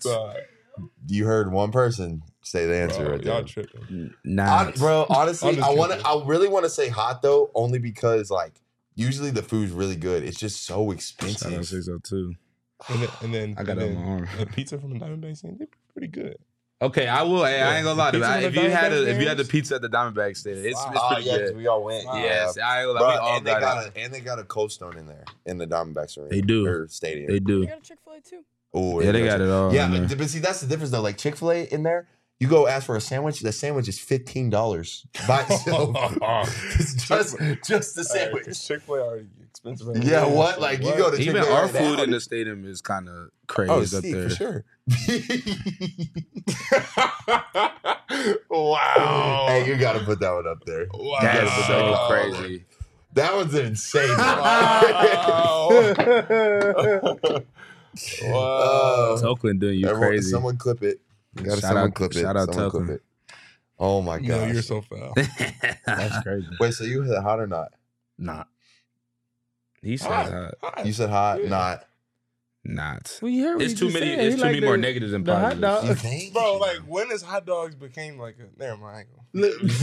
You heard one person say the answer Bro, right y'all there. tripping. Not. Bro, honestly, I'm just I really want to say hot though, only because like usually the food's really good. It's just so I don't expensive. say so too. And then I got it on my arm. the pizza from the Diamondback scene, they're pretty good. Okay, I will. Hey, I ain't gonna lie. Pizza from the If you had Diamondback the games? pizza at the Diamondback Stadium, it's Oh pretty yeah, 'cause good. we all went. Yes, I ain't gonna Bro, lie. We all and they got it. got a Cold Stone in there in the Diamondbacks arena. They do. Or stadium. They You do. got a Chick-fil-A too. Oh, Yeah, they got it all. Yeah, in there. but see, that's the difference though. Like Chick-fil-A in there, you go ask for a sandwich. The sandwich is $15 by itself. It's just the sandwich. Chick-fil-A already expensive. Yeah, what? Like you go to Even Chick-fil-A our right food now. in the stadium is kind of crazy Oh, up Steve, there. for sure. Wow. Hey, you got to put that one up there. Wow. That's so Wow. crazy. That one's an insane. Wow. Oakland doing you Everyone, crazy. Someone clip it. You gotta Shout someone out- clip it. shout out Someone clip Oakland. it. Oh my You know, gosh. you're so foul. That's crazy. Wait, so you hit hot or not? Not. He said Hot. hot. You said hot, Yeah. not. Not. Well, you heard what It's he too just many. said. It's He too like many more the- negatives than the hot positives. dog. You think? Bro, like when has hot dogs became like a never mind. I ain't gonna-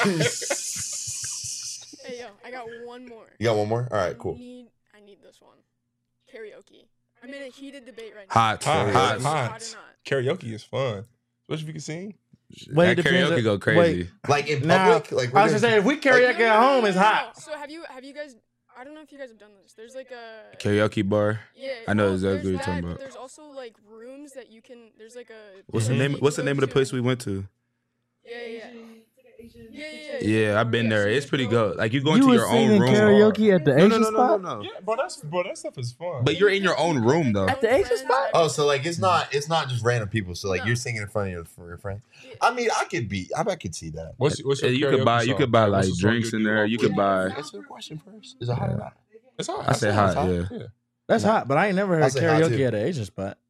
Hey, yo, I got one more. You got one more? All right, cool. I need this one. Karaoke. I'm in a heated debate right now. Hot. Hot. Hot. Is it hot Hot. or not? Karaoke is fun, especially if you can sing. Wait, That it depends karaoke on- go crazy. Like in Now, public? Like I was gonna say if we karaoke at home, it's hot. So have you guys? I don't know if you guys have done this. There's like a Karaoke bar. Yeah, I know well, exactly there's what you're that, talking but about. There's also like rooms that you can. There's like a. What's the Mhm. name? What's the you name go of the place to. we went to? Yeah. Yeah, I've been Yeah, there. so It's you pretty go- good. Like you go into your own room. karaoke at the No, Asian no, no, no, spot? no, no. Yeah, bro, that stuff is fun. But you're in your own room though. At the Asian spot? Oh, so like it's not just random people. So like No. you're singing in front of your friends. Yeah. I mean, I could see that. what's your You karaoke could buy. You song? could buy What's like the song drinks you in do there. off You with? could buy. Answer the question first. Is it hot or not? It's hot. I said hot. hot. Yeah. Yeah. That's hot, but I ain't never I heard say hot, karaoke too. at an Asian spot.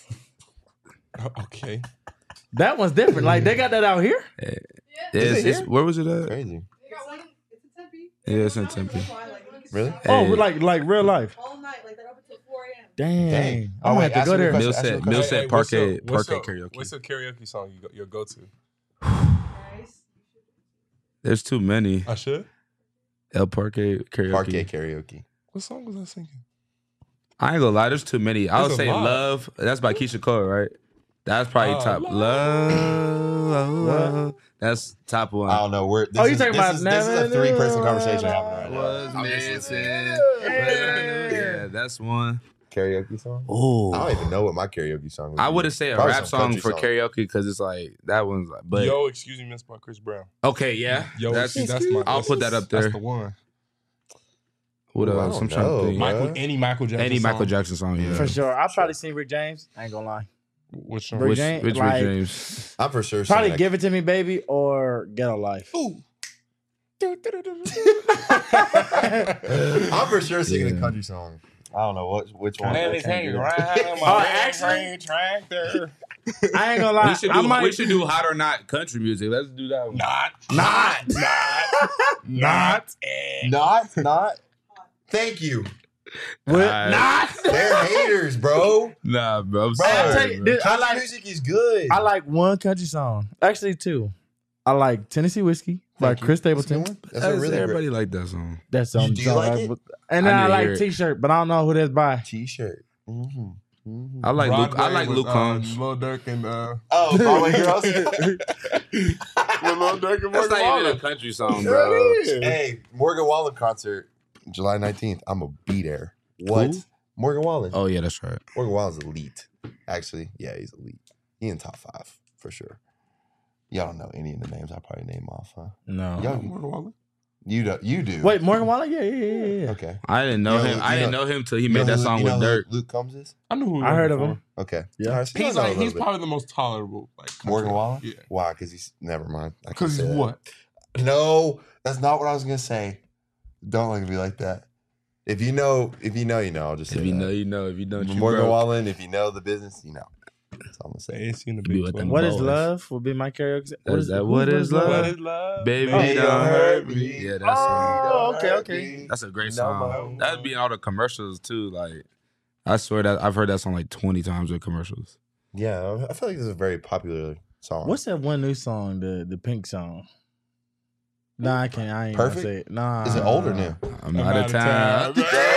Okay. That one's different. Like they got that out here. Where was it at? Crazy. Yeah, it's in Tempe. Really? Oh, Hey. like real life. all night, like they're up until 4 a.m. Dang. Dang. I'm gonna have to ask go me a there. question, Millset- ask me a question. Millset what's Parquet- your- what's Parquet your- karaoke. What's your karaoke song your go-to? Nice. There's too many. I should. El Parque karaoke. Parquet karaoke. What song was I singing? I ain't gonna lie. There's too many. I would There's a say lot. Love. That's by Keisha Cole, right? That's probably Oh, top. Love. Love. That's top one. I don't know. This Oh, you is, talking this about is, this is a Never three-person Knew conversation I happening right Was now. I'm just listening. missing. Yeah, that's one. Karaoke song? I Oh, don't even know what my karaoke song would I be. wouldn't say a Probably rap some song country for song. karaoke because it's like that one's like. But Yo, excuse me, Miss by Chris Brown. okay, yeah. Yo, that's that's my. I'll put that up That's there. the one. What Ooh, I else? don't I'm trying know, to think. Mike- Any Michael Jackson. Any Michael song. Jackson song, yeah. For sure. I've probably seen Rick James. I ain't gonna lie. Which one? Rick Which James, Rick like- James? I'm for sure Probably saying Give It To Me, Baby or Ghetto Life. I'm for sure singing a Yeah. country song. I don't know which one. And I it's can't hanging do around that. my actually- tractor. I ain't gonna lie. We should I do. might, We should do hot or not country music. Let's do that one. Not. Thank you. What? Alright. They're haters, bro. Nah, bro. I'm Bro, sorry, I'll tell you, bro. this- I Country like music is good. I like one country song. Actually, two. I like Tennessee Whiskey by Thank you. Chris That's a Stapleton. good one. That's a really everybody great like that song. That's on Do you like it? And then I I, need to like hear it. T-shirt, but I don't know who that's by. T-shirt. Mm-hmm. I like Luke. I Broadway like was, Luke Combs. Lil Durk and Oh, Broadway Girls. Lil Durk and That's Morgan not even Wallen. a country song, bro. Hey, Morgan Wallen concert, July 19th. I'm gonna be there. What? Who? Morgan Wallen. Oh yeah, that's right. Morgan Wallen's elite. Actually, yeah, he's elite. He's in top 5 for sure. Y'all don't know any of the names I probably name off, huh? No. Y'all, Morgan Wallen. you do. Wait, Morgan Wallen? Yeah. Okay. I didn't know You know- him. I you didn't know- know him till he You know made that who- song you know with who Dirk. Luke Combs is? I knew who he I was heard of before. him. Okay. Yeah. All right, so y'all He's know a like little he's bit. probably the most tolerable. Like country Morgan rapper. Wallen? Yeah. Why? Because he's never mind. I can't Because say he's that. what? No, that's not what I was gonna say. Don't look at me like that. If you know, you know. I'll just say If you that. know, you know. If you don't, you Morgan broke. Wallen. If you know the business, you know. That's all I'm gonna They say. ain't seen the Be big with 12. them What is boys. love? Will be my karaoke. Is that what is love? What is love? Baby, Baby, don't hurt me. me. Yeah, that's Oh, Don't hurt okay. me. that's a great No song. more. That'd be in all the commercials too. Like, I swear that I've heard that song like 20 times in commercials. Yeah, I feel like this is a very popular song. What's that one new song? The Pink song. Nah, I can't. I ain't Perfect? gonna say it. Nah. Is it old or new? I'm out of time.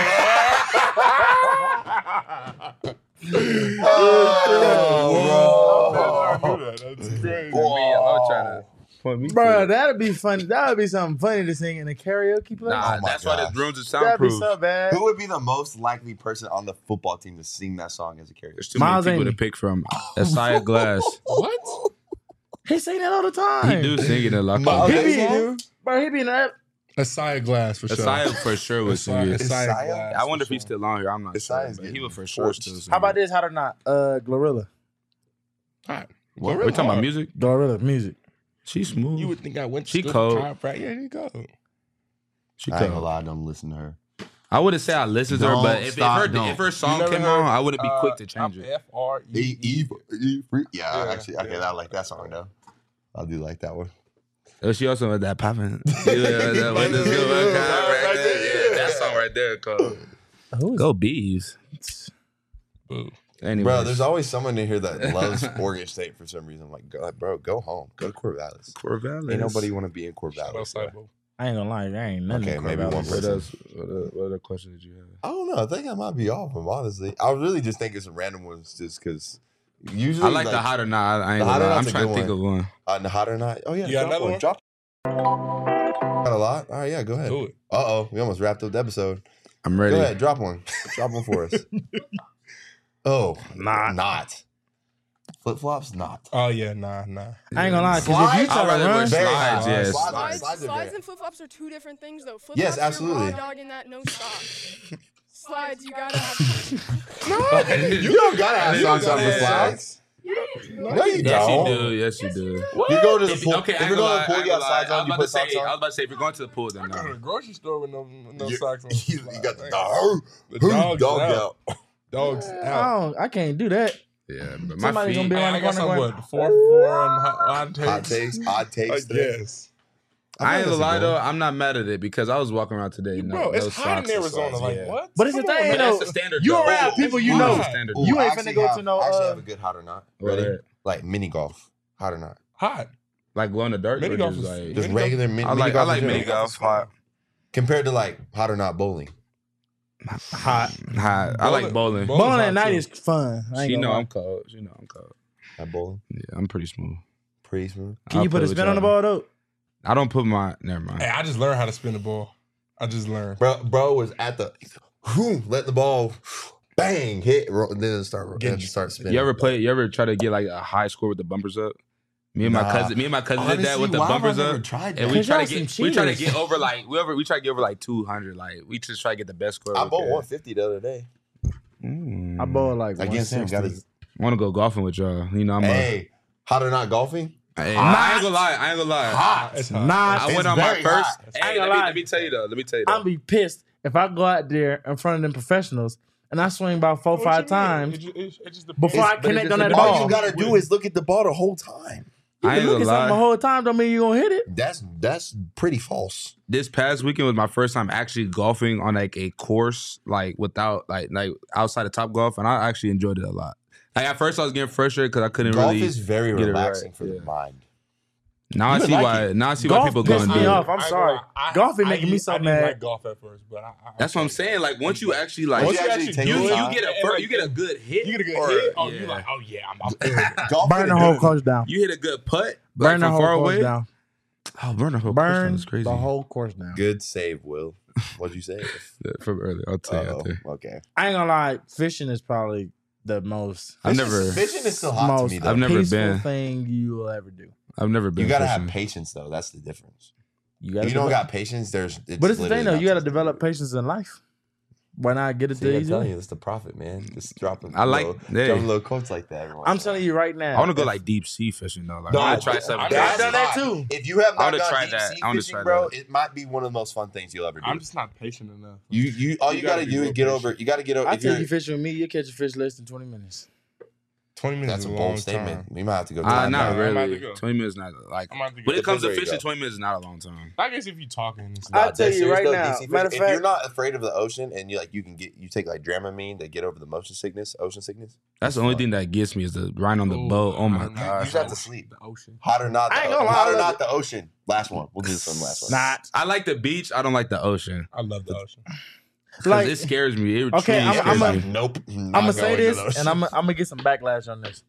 Oh, bro. That's crazy. I'm trying to point me. Bro, to it. that'd be funny. That would be something funny to sing in a karaoke place. Nah, Oh my that's why gosh. this rooms is That'd be soundproof. so bad. Who would be the most likely person on the football team to sing that song as a karaoke? There's too Miles many people Amy. to pick from. Asaya Glass. What? He sing that all the time. He do sing it in a lot. Miles He of Amy? be, bro, he be in that. Asaya Glass for sure. Asaya for sure was sing it. Asaya Asaya? Glass. I wonder if for he's sure. still on here. I'm not sure. Asaya's But he getting would for sure torched. still sing How about it. this? Hot or not? Glorilla. Hot. What? We talking about music? Glorilla music. She's smooth. You would think I went to She school cold. for chiropractic. Yeah, you go. She I ain't gonna cold. lie, I don't listen to her. I wouldn't say I listened to her, Don't but stop, if don't. her song You never came on, heard, I wouldn't be quick to change it. F-R-E-E. Yeah, Yeah, actually, okay, yeah. I like that song though. I do like that one. Oh, she also had that popping. That song right there called Who is Go Bees. Boo. Anyway, Bro, there's always someone in here that loves Oregon State for some reason. I'm like, bro, go home. Go to Corvallis. Corvallis. Ain't nobody want to be in Shout out Corvallis. bro. Cybo. I ain't gonna lie, there ain't nothing. Okay, in maybe Corvallis. one What person. else? What other questions did you have? I don't know. I think I might be off them, honestly. I was really just thinking some random ones just because usually I like the hot or not. I ain't The Hot gonna or lie. I'm Not's a trying to good think of one. the hot or not. Oh, yeah. You got drop another one? Drop. Got a lot? All right, yeah, go ahead. Do it. Uh-oh, we almost wrapped up the episode. I'm ready. Go ahead, drop one. Drop one for us. Oh, not. Flip-flops, not. Oh, yeah, nah. I ain't gonna lie, because if you Slides? try I'd rather to wear run, slides, yes. Slides are Slides very- and flip flops are two different things, though. Flip Yes, flops, absolutely. You're raw dogging that no stop. Slides, you gotta have. You don't gotta have You don't socks on gotta for have slides. No, you Yes, you don't. do. Yes, you do. You go to the pool. Okay, If I you're ain't gonna going lie. to the pool, I ain't you got gonna lie. slides I on, was you about to put socks say. I was on. about to say if you're going to the pool, then I go to no. the grocery store with no You- socks on. You got the The dog dog's out. Dogs out. I can't do that. Yeah, but my Somebody gonna feet. be Hey, around I the got corner some going, what 4 for 4 and hot takes. Hot takes, odd I takes. today. guess. I ain't thought gonna lie that's a though. I'm not mad at it because I was walking around today. Bro, no it's socks hot in and Arizona. slides, Like, yeah. what? But it's the Come on, thing, man. But though. that's the standard. You though. around people you know. That's the standard. Ooh, You I ain't actually finna go have- to no, I actually have a good hot or not. What Ready? that? Like mini golf. Hot or not? Hot. Like glow in the dark. Mini or golf just is- like Just Mini regular golf? mini I like golf. I like in mini general. golf. Hot. Compared to like hot or not bowling. Hot. I like bowling. Bowling's Bowling at hot, night too. is fun. I ain't She gonna know lie. I'm cold. She know I'm cold. At bowling. Yeah, I'm pretty smooth. Pretty smooth. Can I'll you put play a with spin on the y'all. ball though? I don't put my. Never mind. Hey, I just learned how to spin the ball. I just learned. Bro was at the let the ball bang hit then it start spinning. You ever try to get like a high score with the bumpers up? Me and my Nah. cousin did that Honestly, with the why have I bumpers never up. tried And that? we Cause try y'all to get some we try to cheaters. get over like we try to get over like 200. Like we just try to get the best score. I we bowled can. 150 the other day. I bowled like Against him, 160. got his. Want to go golfing with y'all? You know I'm Hey, hot or not golfing? Hey, I ain't gonna lie. Hot. It's hot. Nah, I It's went on my very first. hot. Hey, I ain't gonna let lie. me tell you though. I'll be pissed if I go out there in front of them professionals and I swing about 4 or What 5 you mean? times It just before I but it connect just on that depends. ball. All you gotta do is look at the ball the whole time. You I can ain't look at gonna something the lie. whole time, don't mean you're gonna hit it. That's pretty false. This past weekend was my first time actually golfing on like a course, like without like outside of Top Golf, and I actually enjoyed it a lot. Like at first I was getting frustrated because I couldn't Golf really is very get it relaxing right, for the yeah. mind. Now I You would see like why. it. Now I see why Golf people go pissed and me do off. it. I'm sorry. Golf be making me so I didn't mad. like golf at first, but That's what I'm saying. Like once you actually like Once Once you you actually actually take do the it, time, you get a good hit. You get a good or- hit. Oh, yeah. you like, oh yeah, I'm feeling it. golf Burn the is whole good. course down. You hit a good putt, Burn the from whole far course away. down. Oh, burn the whole course down Burn is crazy. the whole course down. Good save, Will. What'd you say? From earlier, I'll tell you out there. Okay. I ain't gonna lie, fishing is probably the most I've never, Fishing is still hot to most me though. I've never peaceful been. thing you will ever do. I've never been. You gotta fishing. have patience though. That's the difference. You If gotta you don't develop- got patience, but But it's the thing though, you gotta develop patience in life. Why not get it See, the I'm easy telling way? you, that's the profit, man. Just dropping. I like- hey. dropping little quotes like that. Every once I'm in a telling you right now. I want to go like deep sea fishing though. Like No, I want to try something. I'm That's done that hot. too. If you have I not wanna gone try deep that. sea I wanna fishing, try bro, that. it might be one of the most fun things you'll ever do. I'm just not patient enough. You all you gotta gotta be do is real get patient. over. You gotta get over. I If tell you're, you fishing with me, you catch a fish less than 20 minutes. 20 minutes that's a is a bold long statement. time. We might have to go. Not I'm about really. to go. 20 minutes not like. I'm about to When go. it comes to There you fishing, go. 20 minutes is not a long time. I guess if you talking, and I'll stuff. tell dead you serious right though, now, DC matter of if you're fact- not afraid of the ocean and you take like Dramamine to get over the motion sickness, ocean sickness. That's the only thing that gets me is the ride on the boat. Oh my You god. just have to sleep. The ocean. Hot or not? I The, ain't gonna lie, hot I or love not it. the ocean. Last one. We'll do this one last one. Not. I like the beach. I don't like the ocean. I love the ocean. Cause Like, it scares me. It Okay, truly I'm scares a- me. Nope. I'm gonna say this, and I'm gonna get some backlash on this.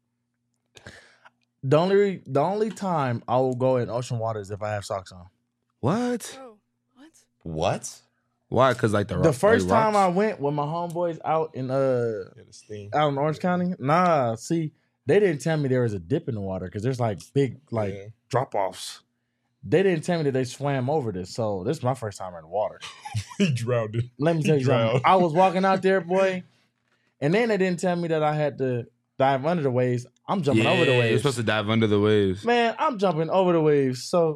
The only time I will go in ocean water is if I have socks on. What? Bro, what? What? Why? Cause like the The first like time I rocks? went with my homeboys out in Yeah, the steam. out in Orange County, see, they didn't tell me there was a dip in the water because there's like big like Yeah. drop offs, they didn't tell me that they swam over this. So this is my first time in the water. He drowned it. Let me tell you something. Drowned. I was walking out there, boy, and then they didn't tell me that I had to dive under the waves. I'm jumping over the You're waves. supposed to dive under the waves. Man, I'm jumping over the waves. So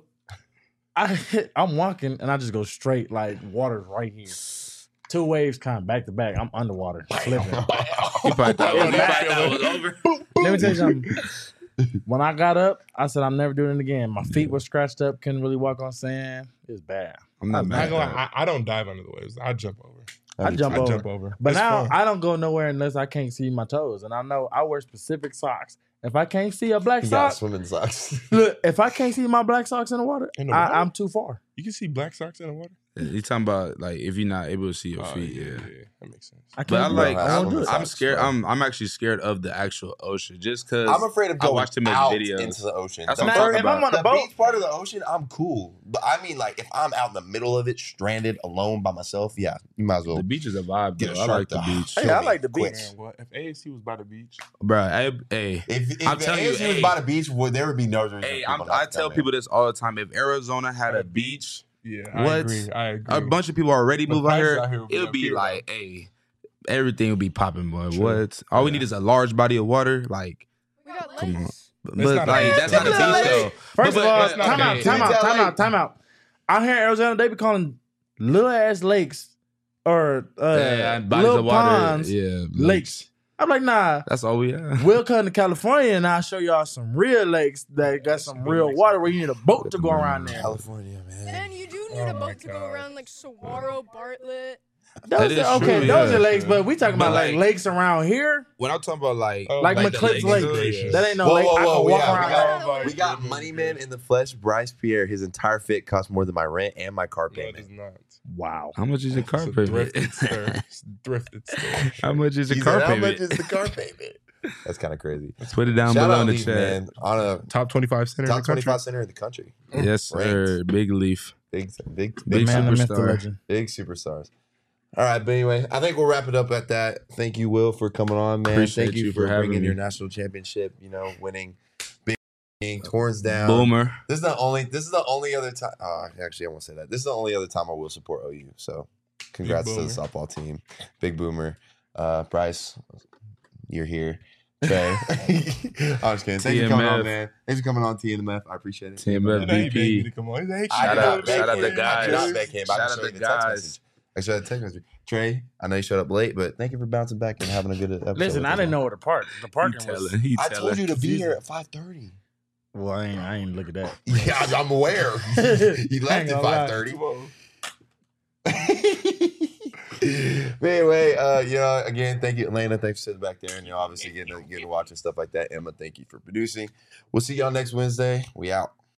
I'm walking and I just go straight, like water's right here. 2 waves kind of back to back. I'm underwater, slipping. You probably thought it was over. Let me tell you something. When I got up, I said I'm never doing it again. My feet were scratched up, couldn't really walk on sand. It was bad. I'm not I'm not mad. gonna lie, I don't dive under the waves. I jump over. I jump over. Jump over. But It's now fun. I don't go nowhere unless I can't see my toes. And I know I wear specific socks. If I can't see a black He got sock, swimming socks. look, if I can't see my black socks in the water, In the water? I'm too far. You can see black socks in the water. You talking about like if you're not able to see your feet, yeah. That makes sense. I But can't I do like it. I won't do it. I'm scared. I'm actually scared of the actual ocean just because I'm afraid of I going watched too many out videos. into the ocean. That's The what I'm talking first- if I'm on a the boat- beach part of the ocean, I'm cool. But I mean, like, if I'm out in the middle of it, stranded, alone by myself, yeah, you might as well The beach is a vibe, get a though. I shark like the to beach, Hey, kill I me like the quick. beach. Man, what if ASC was by the beach? bro. Hey, If I'm telling you, ASU was hey. by the beach, well, there would be no reason. hey, for people not I to tell come in. people this all the time. If Arizona had a beach, Yeah, What? I agree. I agree. a bunch of people already The move out prices here. out here would be It'll up be here, like, hey, everything will be popping, boy. True. What? All we Yeah. need is a large body of water, like. We got Come on. lakes. But not a like beach, that's though. not a beach It's not a though. lake. First But of all, that's not time a out, lake. time out. Out here in Arizona, they be calling little ass lakes or Yeah, bodies little of water. ponds Yeah, lakes. I'm like, nah. That's all we have. We'll come to California and I'll show y'all some real lakes that got some real water where you need a boat to go around there. California, man. And you do need Oh a my boat to go God. around like Saguaro, Bartlett. Those is are, okay, true, those yeah. are lakes, but we talking But about like like- lakes around here, When I'm talking about like, Oh, like the McClips lakes, Lake. yeah. That ain't no Whoa, lake. whoa, I whoa, can walk yeah, around. we got- We got Moneyman in the flesh, Bryce Pierre. His entire fit costs more than my rent and my car No, it does payment. not. Wow. How much is your car It's a payment? thrifted store. It's a thrifted store. How much is He your said, car how payment? much is the car payment? That's kind of crazy. Put it down Shout below out in the Leaf, chat. man. On a Top 25 center in top the country. 25 center in the country. Yes, sir. Big Leaf. Big Big Man, the myth, the superstar. legend. Big superstars. All right, but anyway, I think we'll wrap it up at that. Thank you, Will, for coming on, man. Appreciate Thank you you for for having bringing me. your national championship. Winning, being Torrance down. Boomer. This is the only other time. Actually, I won't say that. This is the only other time I will support OU. So, congrats to the Boomer. softball team. Big Boomer. Bryce, you're here. Trey. I'm just kidding. Thanks for coming on, TMF. man. Thanks for coming on, TMF. I appreciate it. TMF. You know, he begged me VP. to come on. He's like, hey, I Shout did out- not beg shout out him. the I did guys. not beg him. I Shout just out showed the you the text guys. message. I showed a text message. Trey, I know you showed up late, but thank you for bouncing back and having a good episode. Listen, with I us, didn't man. know where to park. The He parking was. telling. He I telling. told you to be here at 5:30. Well, I ain't look at that. Yeah, I'm aware. You Ain't left at gonna lie. 5:30. But anyway, again, thank you, Atlanta. Thanks for sitting back there and obviously getting to watch and stuff like that. Emma, thank you for producing. We'll see y'all next Wednesday. We out.